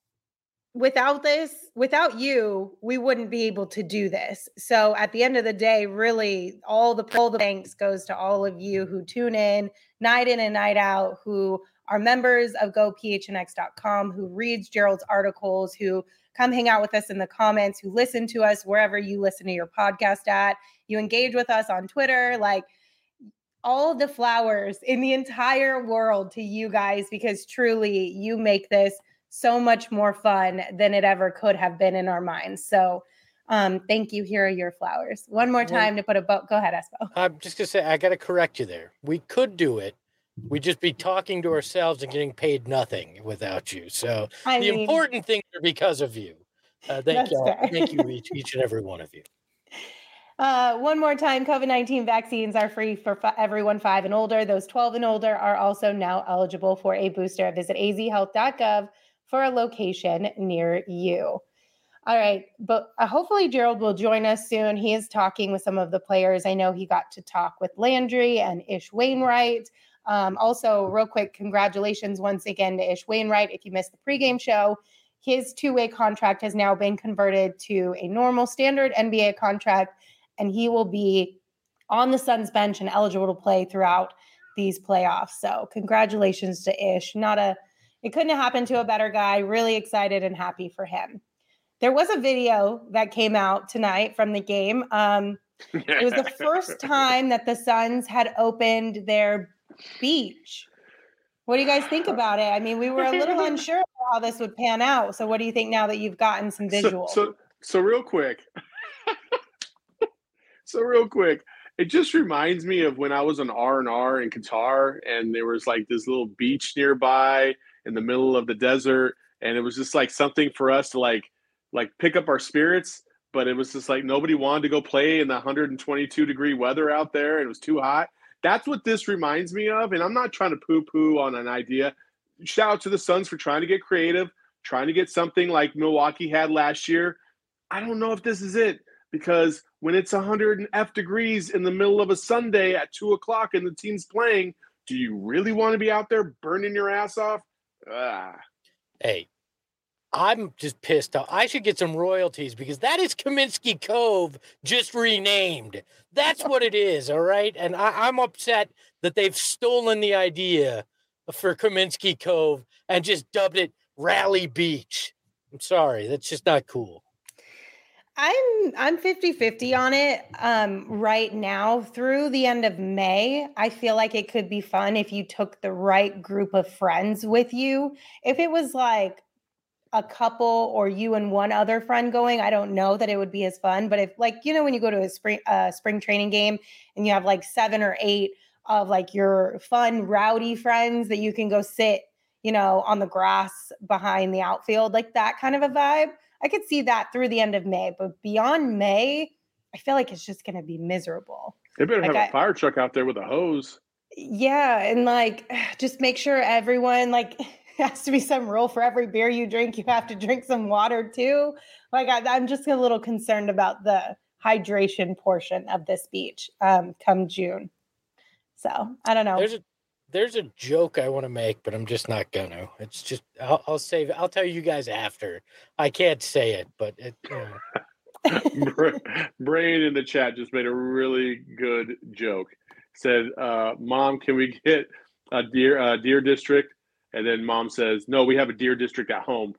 [SPEAKER 1] without you, we wouldn't be able to do this. So at the end of the day, really all the thanks goes to all of you who tune in and night out, who are members of gophnx.com, who reads Gerald's articles, who come hang out with us in the comments, who listen to us wherever you listen to your podcast at, you engage with us on Twitter, like all the flowers in the entire world to you guys, because truly you make this so much more fun than it ever could have been in our minds. So thank you. Here are your flowers. One more time to put a bow. Go ahead, Espo.
[SPEAKER 2] I'm just going to say, I got to correct you there. We could do it, we'd just be talking to ourselves and getting paid nothing without you. So important things are because of you. Thank you. Thank you, each and every one of you.
[SPEAKER 1] One more time, COVID-19 vaccines are free for everyone 5 and older. Those 12 and older are also now eligible for a booster. Visit azhealth.gov for a location near you. All right, but hopefully Gerald will join us soon. He is talking with some of the players. I know he got to talk with Landry and Ish Wainwright. Also, real quick, congratulations once again to Ish Wainwright. If you missed the pregame show, his 2-way contract has now been converted to a normal standard NBA contract, and he will be on the Suns bench and eligible to play throughout these playoffs. So congratulations to Ish. It couldn't have happened to a better guy. Really excited and happy for him. There was a video that came out tonight from the game. It was the first time that the Suns had opened their beach. What do you guys think about it? I mean, we were a little unsure how this would pan out. So what do you think now that you've gotten some visuals?
[SPEAKER 3] So real quick. It just reminds me of when I was on R&R in Qatar, and there was like this little beach nearby in the middle of the desert, and it was just like something for us to like pick up our spirits, but it was just like nobody wanted to go play in the 122-degree weather out there, and it was too hot. That's what this reminds me of, and I'm not trying to poo-poo on an idea. Shout out to the Suns for trying to get creative, trying to get something like Milwaukee had last year. I don't know if this is it, because when it's 100 degrees in the middle of a Sunday at 2 o'clock and the team's playing, do you really want to be out there burning your ass off?
[SPEAKER 2] Hey, I'm just pissed off. I should get some royalties because that is Kaminsky Cove just renamed. That's what it is, all right? And I'm upset that they've stolen the idea for Kaminsky Cove and just dubbed it Rally Beach. I'm sorry. That's just not cool.
[SPEAKER 1] I'm 50-50 on it right now through the end of May. I feel like it could be fun if you took the right group of friends with you. If it was like a couple or you and one other friend going, I don't know that it would be as fun. But if like, when you go to a spring training game and you have like 7 or 8 of like your fun, rowdy friends that you can go sit, on the grass behind the outfield, like that kind of a vibe. I could see that through the end of May, but beyond May, I feel like it's just going to be miserable.
[SPEAKER 3] They better have a fire truck out there with a hose.
[SPEAKER 1] Yeah. And like, just make sure everyone has to be some rule for every beer you drink. You have to drink some water too. Like I'm just a little concerned about the hydration portion of this beach come June. So I don't know.
[SPEAKER 2] There's a joke I want to make, but I'm just not gonna. It's just I'll save it. I'll tell you guys after. I can't say it, but it.
[SPEAKER 3] Brain in the chat just made a really good joke. Said, "Mom, can we get a deer district?" And then Mom says, "No, we have a deer district at home."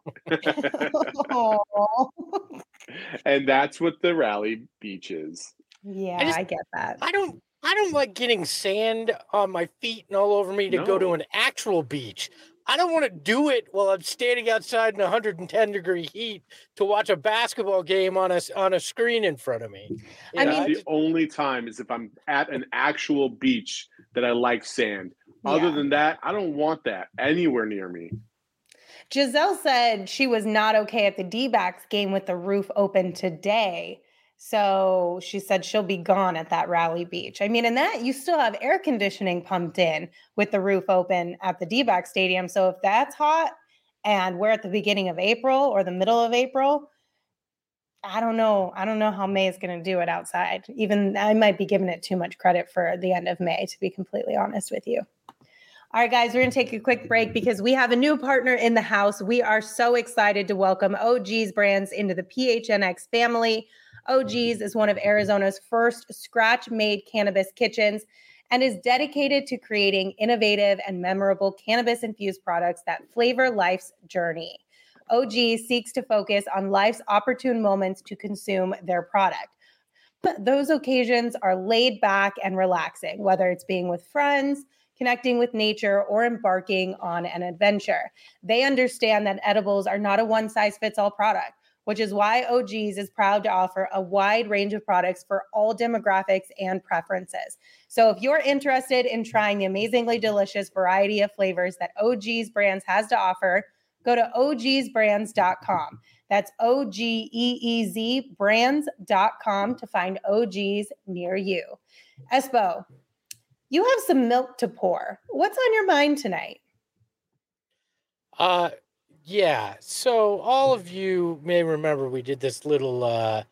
[SPEAKER 3] And that's what the Rally Beach is.
[SPEAKER 1] Yeah, I get that.
[SPEAKER 2] I don't like getting sand on my feet and all over me to go to an actual beach. I don't want to do it while I'm standing outside in 110-degree heat to watch a basketball game on a screen in front of me.
[SPEAKER 3] The only time is if I'm at an actual beach that I like sand. Yeah. Other than that, I don't want that anywhere near me.
[SPEAKER 1] Giselle said she was not okay at the D-backs game with the roof open today. So she said she'll be gone at that Rally Beach. I mean, and that you still have air conditioning pumped in with the roof open at the D-back stadium. So if that's hot and we're at the beginning of April or the middle of April, I don't know how May is going to do it outside. Even I might be giving it too much credit for the end of May, to be completely honest with you. All right, guys, we're going to take a quick break because we have a new partner in the house. We are so excited to welcome OG's Brands into the PHNX family. OG's is one of Arizona's first scratch-made cannabis kitchens and is dedicated to creating innovative and memorable cannabis-infused products that flavor life's journey. OG seeks to focus on life's opportune moments to consume their product. But those occasions are laid back and relaxing, whether it's being with friends, connecting with nature, or embarking on an adventure. They understand that edibles are not a one-size-fits-all product. which is why OG's is proud to offer a wide range of products for all demographics and preferences. So if you're interested in trying the amazingly delicious variety of flavors that OG's Brands has to offer, go to ogsbrands.com. That's OGEEZ brands.com to find OG's near you. Espo, you have some milk to pour. What's on your mind tonight?
[SPEAKER 2] Yeah. So all of you may remember we did this little,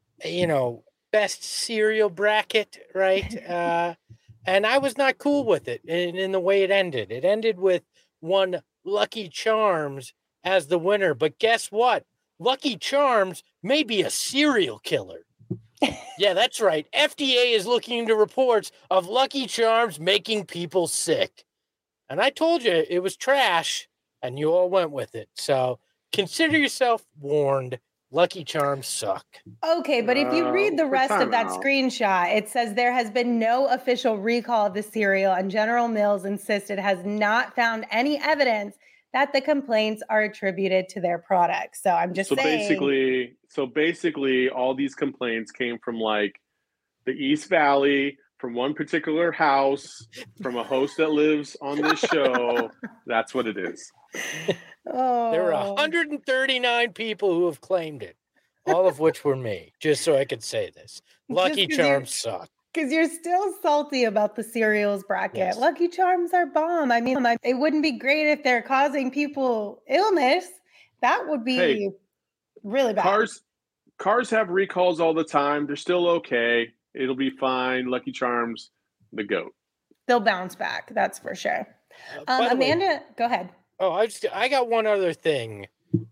[SPEAKER 2] best cereal bracket, right? And I was not cool with it in the way it ended. It ended with one Lucky Charms as the winner. But guess what? Lucky Charms may be a serial killer. Yeah, that's right. FDA is looking into reports of Lucky Charms making people sick. And I told you it was trash, and you all went with it. So consider yourself warned. Lucky Charms suck.
[SPEAKER 1] Okay, but if you read the rest of that screenshot, it says there has been no official recall of the cereal, and General Mills insists it has not found any evidence that the complaints are attributed to their products. So I'm just saying.
[SPEAKER 3] Basically, all these complaints came from like the East Valley, from one particular house, from a host that lives on this show. That's what it is.
[SPEAKER 1] Oh.
[SPEAKER 2] There are 139 people who have claimed it, all of which were me, just so I could say this. Lucky Charms suck.
[SPEAKER 1] Because you're still salty about the cereals bracket. Yes. Lucky Charms are bomb. I mean, it wouldn't be great if they're causing people illness. That would be really bad.
[SPEAKER 3] Cars have recalls all the time. They're still okay. It'll be fine. Lucky Charms, the GOAT.
[SPEAKER 1] They'll bounce back. That's for sure. Amanda, go ahead.
[SPEAKER 2] Oh, I got one other thing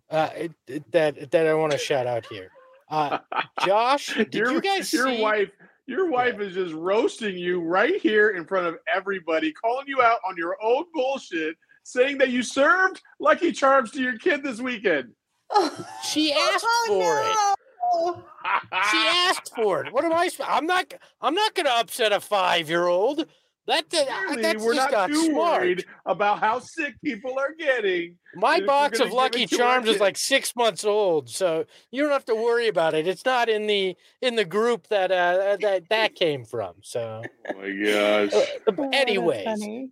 [SPEAKER 2] that I want to shout out here. Josh, did you guys see?
[SPEAKER 3] Your wife is just roasting you right here in front of everybody, calling you out on your own bullshit, saying that you served Lucky Charms to your kid this weekend.
[SPEAKER 2] She asked for it. She asked for it. What am I? I'm not going to upset a 5-year-old. That's
[SPEAKER 3] we're not too worried about how sick people are getting.
[SPEAKER 2] My box of Lucky Charms is like 6 months old, so you don't have to worry about it. It's not in the group that came from. So,
[SPEAKER 3] oh my gosh.
[SPEAKER 2] Anyways,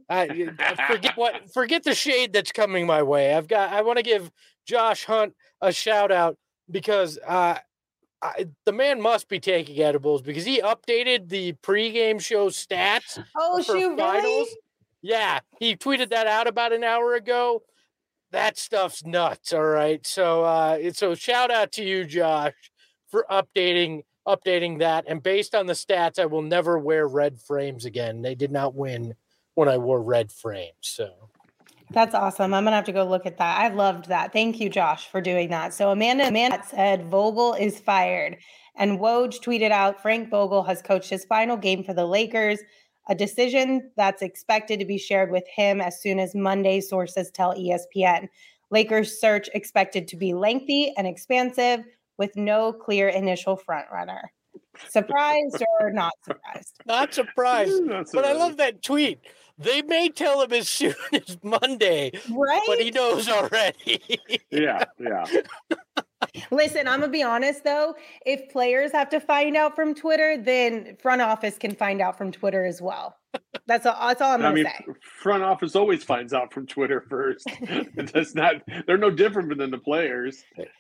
[SPEAKER 2] forget the shade that's coming my way. I want to give Josh Hunt a shout out because the man must be taking edibles because he updated the pregame show stats.
[SPEAKER 1] Oh, shoot,
[SPEAKER 2] finals.
[SPEAKER 1] Really?
[SPEAKER 2] Yeah, he tweeted that out about an hour ago. That stuff's nuts. All right, so shout out to you, Josh, for updating that. And based on the stats, I will never wear red frames again. They did not win when I wore red frames. So.
[SPEAKER 1] That's awesome. I'm going to have to go look at that. I loved that. Thank you, Josh, for doing that. So Amanda said Vogel is fired. And Woj tweeted out, Frank Vogel has coached his final game for the Lakers, a decision that's expected to be shared with him as soon as Monday, sources tell ESPN. Lakers search expected to be lengthy and expansive with no clear initial frontrunner. Surprised or not surprised?
[SPEAKER 2] Not surprised. But I love that tweet. They may tell him as soon as Monday,
[SPEAKER 1] right?
[SPEAKER 2] But he knows already.
[SPEAKER 3] Yeah.
[SPEAKER 1] Listen, I'm going to be honest, though. If players have to find out from Twitter, then front office can find out from Twitter as well. That's all I'm going to say.
[SPEAKER 3] Front office always finds out from Twitter first. They're no different than the players.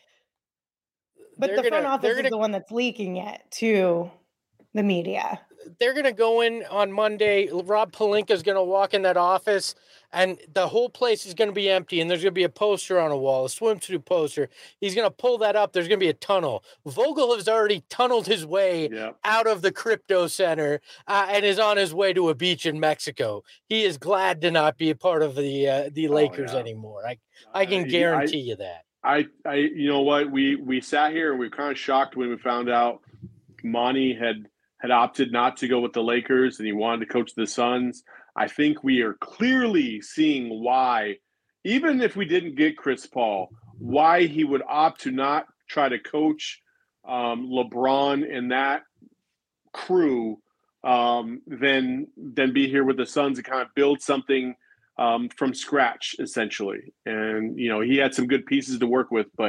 [SPEAKER 1] But the front office is the one that's leaking it to the media.
[SPEAKER 2] They're going to go in on Monday. Rob Pelinka is going to walk in that office, and the whole place is going to be empty, and there's going to be a poster on a wall, a swimsuit poster. He's going to pull that up. There's going to be a tunnel. Vogel has already tunneled his way out of the crypto center and is on his way to a beach in Mexico. He is glad to not be a part of the Lakers anymore. I can guarantee you that.
[SPEAKER 3] You know what? We sat here and we were kind of shocked when we found out Monty had opted not to go with the Lakers and he wanted to coach the Suns. I think we are clearly seeing why, even if we didn't get Chris Paul, why he would opt to not try to coach LeBron and that crew than be here with the Suns and kind of build something from scratch, essentially. And, he had some good pieces to work with, but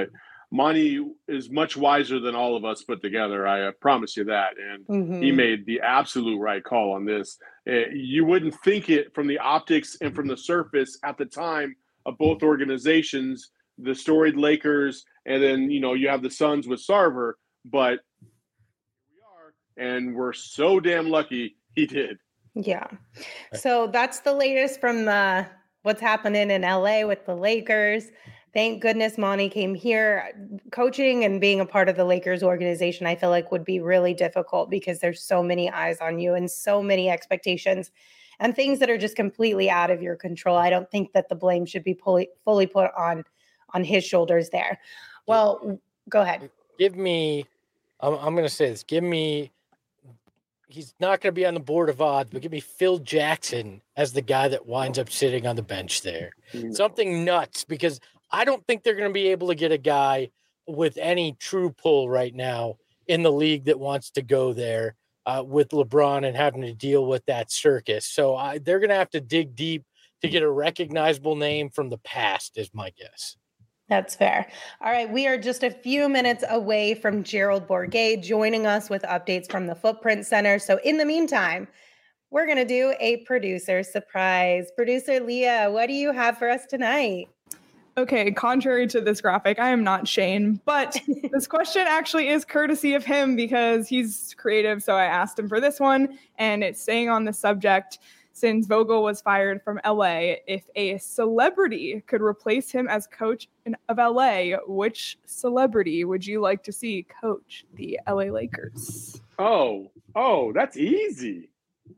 [SPEAKER 3] Monty is much wiser than all of us put together. I promise you that. And he made the absolute right call on this. You wouldn't think it from the optics and from the surface at the time of both organizations, the storied Lakers, and then, you have the Suns with Sarver, but we are, and we're so damn lucky he did.
[SPEAKER 1] Yeah. So that's the latest from what's happening in LA with the Lakers. Thank goodness Monty came here. Coaching and being a part of the Lakers organization, I feel like would be really difficult because there's so many eyes on you and so many expectations and things that are just completely out of your control. I don't think that the blame should be fully put on his shoulders there. Well, go ahead.
[SPEAKER 2] I'm going to say this. He's not going to be on the board of odds, but give me Phil Jackson as the guy that winds up sitting on the bench there. Something nuts, because I don't think they're going to be able to get a guy with any true pull right now in the league that wants to go there with LeBron and having to deal with that circus. So they're going to have to dig deep to get a recognizable name from the past, is my guess.
[SPEAKER 1] That's fair. All right. We are just a few minutes away from Gerald Bourguet joining us with updates from the Footprint Center. So in the meantime, we're going to do a producer surprise. Producer Leah, what do you have for us tonight?
[SPEAKER 4] Okay, contrary to this graphic, I am not Shane, but this question actually is courtesy of him because he's creative. So I asked him for this one, and it's staying on the subject. Since Vogel was fired from LA, if a celebrity could replace him as coach of LA, which celebrity would you like to see coach the LA Lakers?
[SPEAKER 3] Oh, that's easy.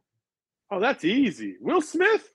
[SPEAKER 3] Will Smith.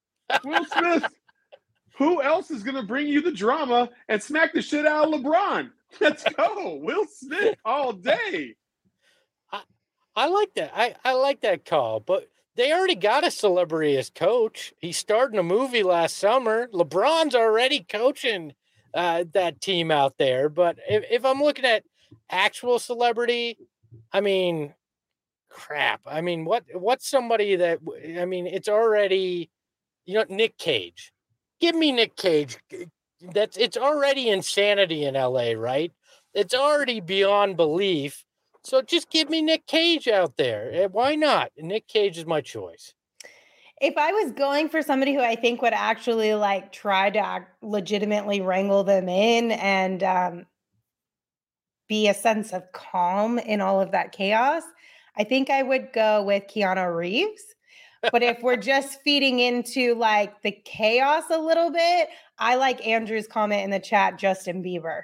[SPEAKER 3] Who else is going to bring you the drama and smack the shit out of LeBron? Let's go. Will Smith all day.
[SPEAKER 2] I like that. I like that call, but they already got a celebrity as coach. He starred in a movie last summer. LeBron's already coaching that team out there. But if I'm looking at actual celebrity, I mean, crap. I mean, what's somebody that, I mean, it's already, Nick Cage. Give me Nick Cage. It's already insanity in LA, right? It's already beyond belief. So just give me Nick Cage out there. Why not? Nick Cage is my choice.
[SPEAKER 1] If I was going for somebody who I think would actually try to legitimately wrangle them in and be a sense of calm in all of that chaos, I think I would go with Keanu Reeves. But if we're just feeding into the chaos a little bit, I like Andrew's comment in the chat, Justin Bieber.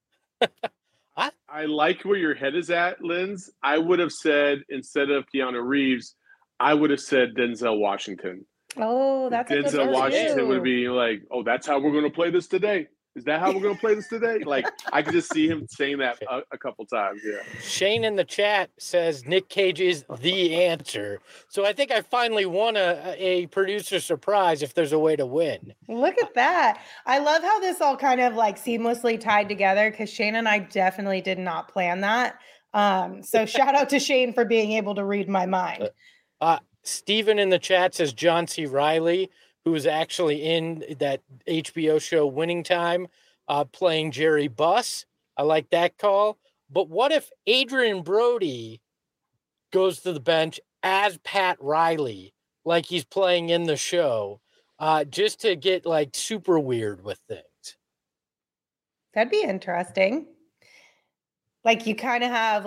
[SPEAKER 3] I like where your head is at, Linz. I would have said, instead of Keanu Reeves, I would have said Denzel Washington.
[SPEAKER 1] Oh, that's
[SPEAKER 3] Denzel Washington would be like, oh, that's how we're going to play this today. Is that how we're going to play this today? I could just see him saying that a couple times. Yeah.
[SPEAKER 2] Shane in the chat says Nick Cage is the answer. So I think I finally won a producer surprise if there's a way to win.
[SPEAKER 1] Look at that. I love how this all kind of seamlessly tied together because Shane and I definitely did not plan that. So shout out to Shane for being able to read my mind.
[SPEAKER 2] Steven in the chat says John C. Reilly, who was actually in that HBO show Winning Time, playing Jerry Buss. I like that call. But what if Adrian Brody goes to the bench as Pat Riley, like he's playing in the show, just to get super weird with things?
[SPEAKER 1] That'd be interesting. You kind of have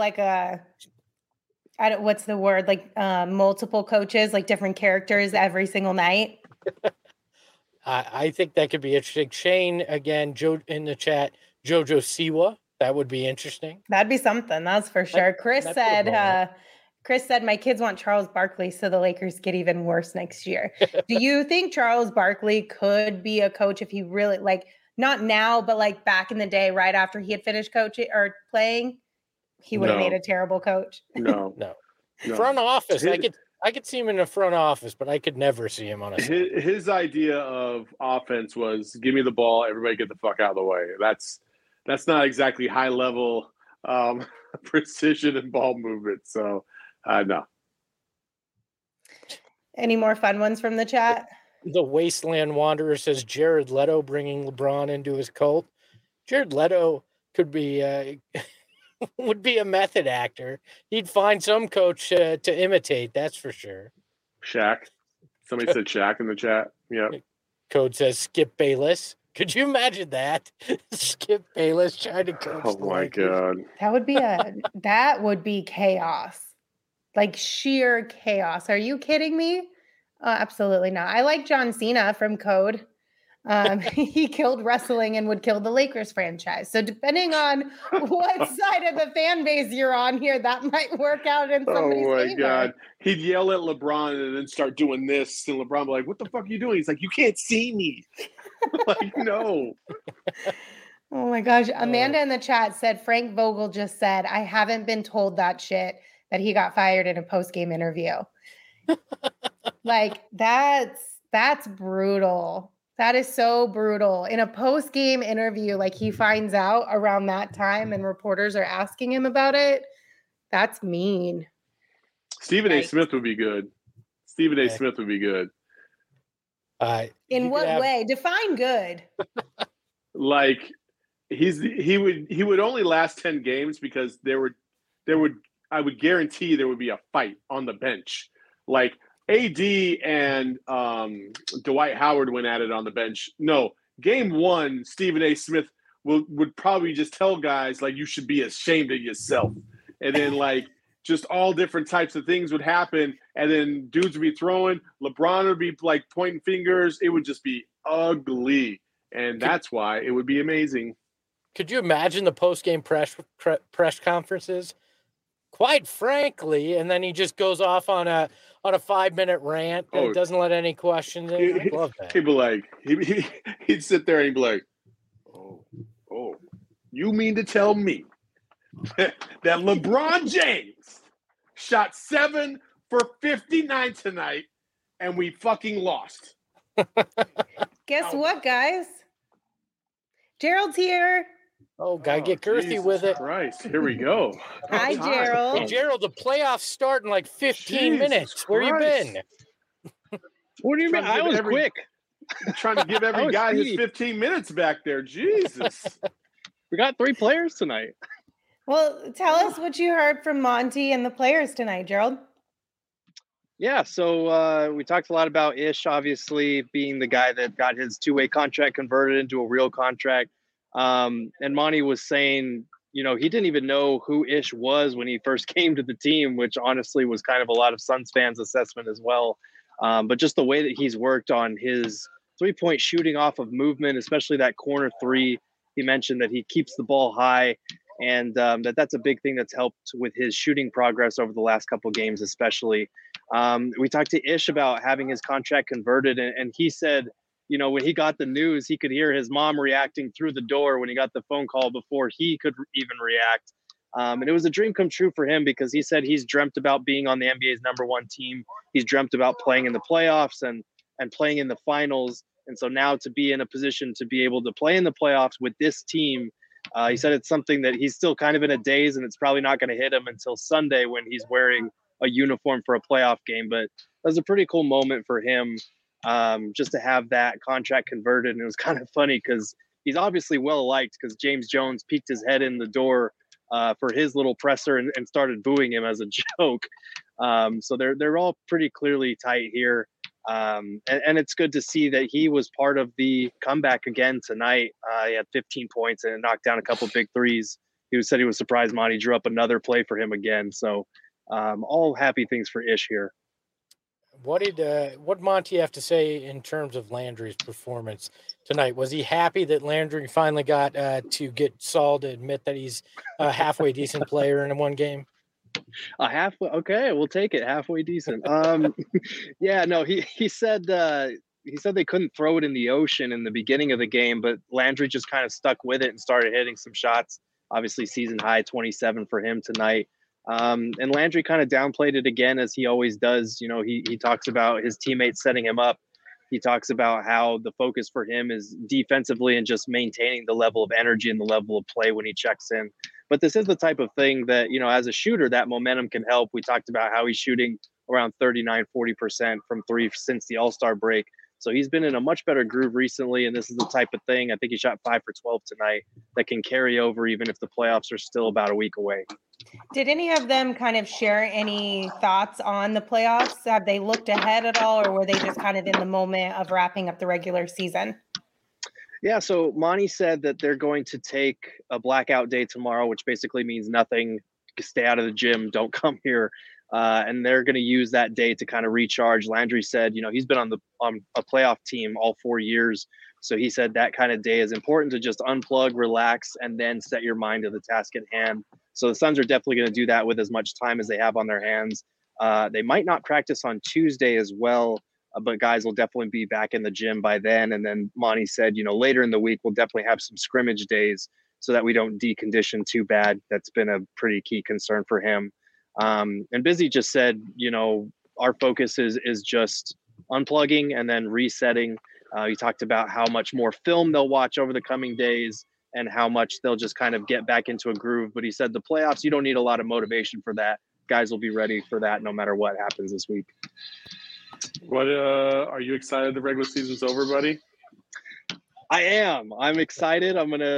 [SPEAKER 1] what's the word? Multiple coaches, different characters every single night.
[SPEAKER 2] I think that could be interesting. Shane, again, Joe in the chat, Jojo Siwa. That would be interesting.
[SPEAKER 1] That'd be something, that's for sure. Chris said, my kids want Charles Barkley, so the Lakers get even worse next year. Do you think Charles Barkley could be a coach if he really, not now, but back in the day, right after he had finished coaching or playing, he would have made a terrible coach?
[SPEAKER 3] No.
[SPEAKER 2] Front office, I could see him in the front office, but I could never see him on a side.
[SPEAKER 3] His idea of offense was give me the ball, everybody get the fuck out of the way. That's not exactly high level precision and ball movement. So no.
[SPEAKER 1] Any more fun ones from the chat?
[SPEAKER 2] The Wasteland Wanderer says Jared Leto bringing LeBron into his cult. Jared Leto could be would be a method actor. He'd find some coach to imitate. That's for sure.
[SPEAKER 3] Shaq. Somebody said Shaq in the chat. Yeah.
[SPEAKER 2] Code says Skip Bayless. Could you imagine that? Skip Bayless trying to coach.
[SPEAKER 3] Oh my God.
[SPEAKER 1] That would be chaos. Like sheer chaos. Are you kidding me? Absolutely not. I like John Cena from Code. He killed wrestling and would kill the Lakers franchise. So depending on what side of the fan base you're on here, that might work out in somebody's favor. Oh my God.
[SPEAKER 3] He'd yell at LeBron and then start doing this. And LeBron would be like, what the fuck are you doing? He's like, you can't see me. Like, no.
[SPEAKER 1] Oh my gosh. Amanda in the chat said, Frank Vogel just said, I haven't been told that shit, that he got fired in a post-game interview. Like, that's brutal. That is so brutal. In a post-game interview, like he finds out around that time and reporters are asking him about it. That's mean.
[SPEAKER 3] Stephen A. Smith would be good. Stephen A. Smith would be good.
[SPEAKER 1] In what way? Define good.
[SPEAKER 3] Like he would only last 10 games because I would guarantee there would be a fight on the bench. Like AD and Dwight Howard went at it on the bench. No, game one, Stephen A. Smith would probably just tell guys like you should be ashamed of yourself, and then like just all different types of things would happen, and then dudes would be throwing. LeBron would be like pointing fingers. It would just be ugly, and that's why it would be amazing.
[SPEAKER 2] Could you imagine the post-game press conferences? Quite frankly, and then he just goes off on a 5-minute rant and doesn't let any questions in. I love that.
[SPEAKER 3] He'd be like, he'd sit there and he'd be like, oh, you mean to tell me that LeBron James shot 7 for 59 tonight and we fucking lost?
[SPEAKER 1] Guess what, guys? Gerald's here.
[SPEAKER 2] Oh, gotta get girthy with it.
[SPEAKER 3] Christ, here we go.
[SPEAKER 1] Hi, Gerald.
[SPEAKER 2] Hey, Gerald, the playoffs start in like 15 minutes. Where you been?
[SPEAKER 5] What do you mean? I was quick.
[SPEAKER 3] Trying to give every guy his 15 minutes back there. Jesus.
[SPEAKER 5] We got 3 players tonight.
[SPEAKER 1] Well, tell us what you heard from Monty and the players tonight, Gerald.
[SPEAKER 5] Yeah, so we talked a lot about Ish, obviously, being the guy that got his 2-way contract converted into a real contract. And Monty was saying, you know, he didn't even know who Ish was when he first came to the team, which honestly was kind of a lot of Suns fans' assessment as well. But just the way that he's worked on his 3-point shooting off of movement, especially that corner 3, he mentioned that he keeps the ball high and that's a big thing that's helped with his shooting progress over the last couple of games, especially. We talked to Ish about having his contract converted, and he said, you know, when he got the news, he could hear his mom reacting through the door when he got the phone call before he could even react. And it was a dream come true for him because he said he's dreamt about being on the NBA's #1 team. He's dreamt about playing in the playoffs and playing in the finals. And so now to be in a position to be able to play in the playoffs with this team, he said it's something that he's still kind of in a daze, and it's probably not going to hit him until Sunday when he's wearing a uniform for a playoff game. But that was a pretty cool moment for him. Just to have that contract converted. And it was kind of funny because he's obviously well liked because James Jones peeked his head in the door for his little presser and started booing him as a joke. So they're all pretty clearly tight here. And it's good to see that he was part of the comeback again tonight. He had 15 points and knocked down a couple big threes. He said he was surprised Monty drew up another play for him again. So all happy things for Ish here.
[SPEAKER 2] What did Monty have to say in terms of Landry's performance tonight? Was he happy that Landry finally got to get Saul to admit that he's a halfway decent player in one game?
[SPEAKER 5] A halfway, okay, we'll take it. Halfway decent. Yeah, no, he said they couldn't throw it in the ocean in the beginning of the game, but Landry just kind of stuck with it and started hitting some shots. Obviously, season high 27 for him tonight. And Landry kind of downplayed it again, as he always does. You know, he talks about his teammates setting him up. He talks about how the focus for him is defensively and just maintaining the level of energy and the level of play when he checks in. But this is the type of thing that, you know, as a shooter, that momentum can help. We talked about how he's shooting around 39-40% from 3 since the All-Star break. So he's been in a much better groove recently, and this is the type of thing, I think he shot 5 for 12 tonight, that can carry over even if the playoffs are still about a week away.
[SPEAKER 1] Did any of them kind of share any thoughts on the playoffs? Have they looked ahead at all, or were they just kind of in the moment of wrapping up the regular season?
[SPEAKER 5] Yeah, so Monty said that they're going to take a blackout day tomorrow, which basically means nothing. Stay out of the gym, don't come here. And they're going to use that day to kind of recharge. Landry said, he's been on a playoff team all 4 years. So he said that kind of day is important to just unplug, relax, and then set your mind to the task at hand. So the Suns are definitely going to do that with as much time as they have on their hands. They might not practice on Tuesday as well, but guys will definitely be back in the gym by then. And then Monty said, later in the week, we'll definitely have some scrimmage days so that we don't decondition too bad. That's been a pretty key concern for him. And Busy just said, our focus is just unplugging and then resetting. He talked about how much more film they'll watch over the coming days and how much they'll just kind of get back into a groove. But he said the playoffs, you don't need a lot of motivation for that. Guys will be ready for that no matter what happens this week.
[SPEAKER 3] What are you excited the regular season's over, buddy?
[SPEAKER 5] I am. I'm excited.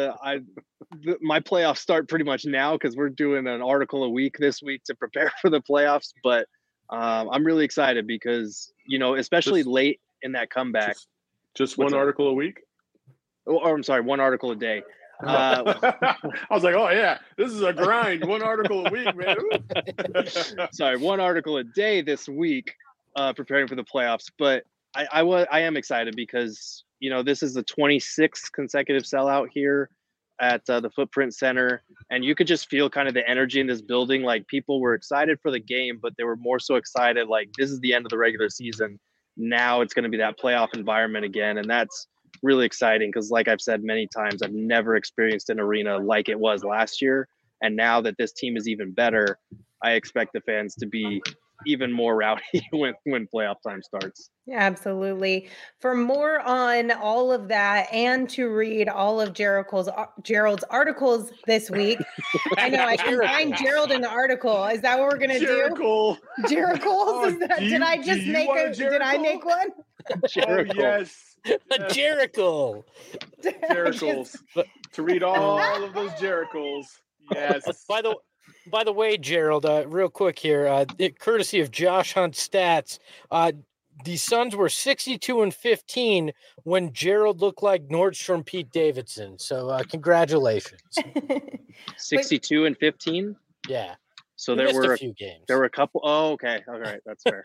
[SPEAKER 5] My playoffs start pretty much now because we're doing an article a week this week to prepare for the playoffs. But I'm really excited because, especially late in that comeback.
[SPEAKER 3] Just one article a week?
[SPEAKER 5] Or I'm sorry, one article a day.
[SPEAKER 3] I was like, oh yeah, this is a grind. One article a week, man.
[SPEAKER 5] Sorry, one article a day this week, preparing for the playoffs. But I am excited because this is the 26th consecutive sellout here at the Footprint Center, and you could just feel kind of the energy in this building. Like people were excited for the game, but they were more so excited like this is the end of the regular season. Now it's going to be that playoff environment again, and that's really exciting because like I've said many times, I've never experienced an arena like it was last year. And now that this team is even better, I expect the fans to be even more rowdy when playoff time starts.
[SPEAKER 1] Yeah, absolutely. For more on all of that and to read all of Gerald's articles this week, I know I can find Gerald in the article. Is that what we're gonna do? Gerald.
[SPEAKER 3] Oh,
[SPEAKER 1] Did I make one?
[SPEAKER 3] Oh, yes.
[SPEAKER 2] A Jericho.
[SPEAKER 3] Jericles. To read all of those Jericles. Yes.
[SPEAKER 2] By the way, Gerald, real quick here, courtesy of Josh Hunt Stats, the Suns were 62-15 when Gerald looked like Nordstrom Pete Davidson. So congratulations.
[SPEAKER 5] 62-15?
[SPEAKER 2] Yeah.
[SPEAKER 5] So there were
[SPEAKER 2] a few games.
[SPEAKER 5] There were a couple. Oh, okay. All right. That's fair.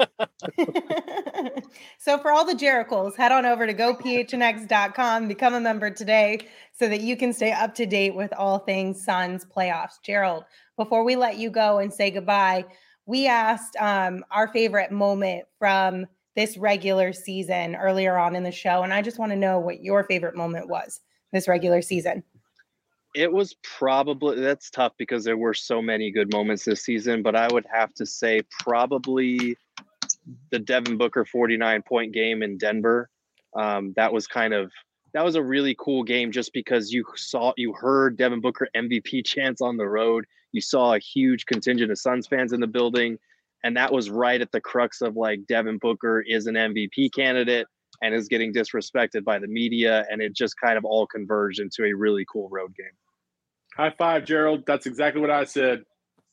[SPEAKER 1] So for all the Jericles, head on over to gophnx.com, become a member today so that you can stay up to date with all things Suns playoffs. Gerald, before we let you go and say goodbye, we asked our favorite moment from this regular season earlier on in the show. And I just want to know what your favorite moment was this regular season.
[SPEAKER 5] It was probably, that's tough because there were so many good moments this season, but I would have to say probably the Devin Booker 49-point game in Denver. That was a really cool game just because you heard Devin Booker MVP chants on the road. You saw a huge contingent of Suns fans in the building. And that was right at the crux of like Devin Booker is an MVP candidate and is getting disrespected by the media. And it just kind of all converged into a really cool road game.
[SPEAKER 3] High five, Gerald. That's exactly what I said.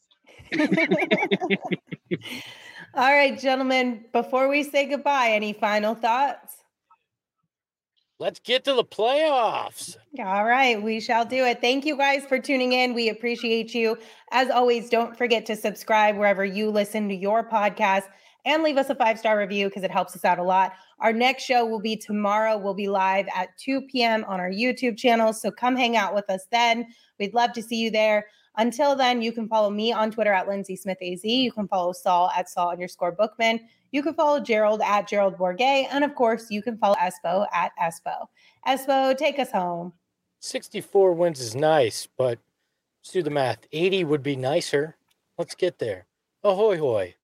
[SPEAKER 1] All right, gentlemen, before we say goodbye, any final thoughts?
[SPEAKER 2] Let's get to the playoffs.
[SPEAKER 1] All right, we shall do it. Thank you guys for tuning in. We appreciate you. As always, don't forget to subscribe wherever you listen to your podcast and leave us a 5-star review because it helps us out a lot. Our next show will be tomorrow. We'll be live at 2 p.m. on our YouTube channel, so come hang out with us then. We'd love to see you there. Until then, you can follow me on Twitter at LindsaySmithAZ. You can follow Saul at Saul_Bookman. You can follow Gerald at Gerald Bourget. And of course, you can follow Espo at Espo. Espo, take us home.
[SPEAKER 2] 64 wins is nice, but let's do the math. 80 would be nicer. Let's get there. Ahoy hoy.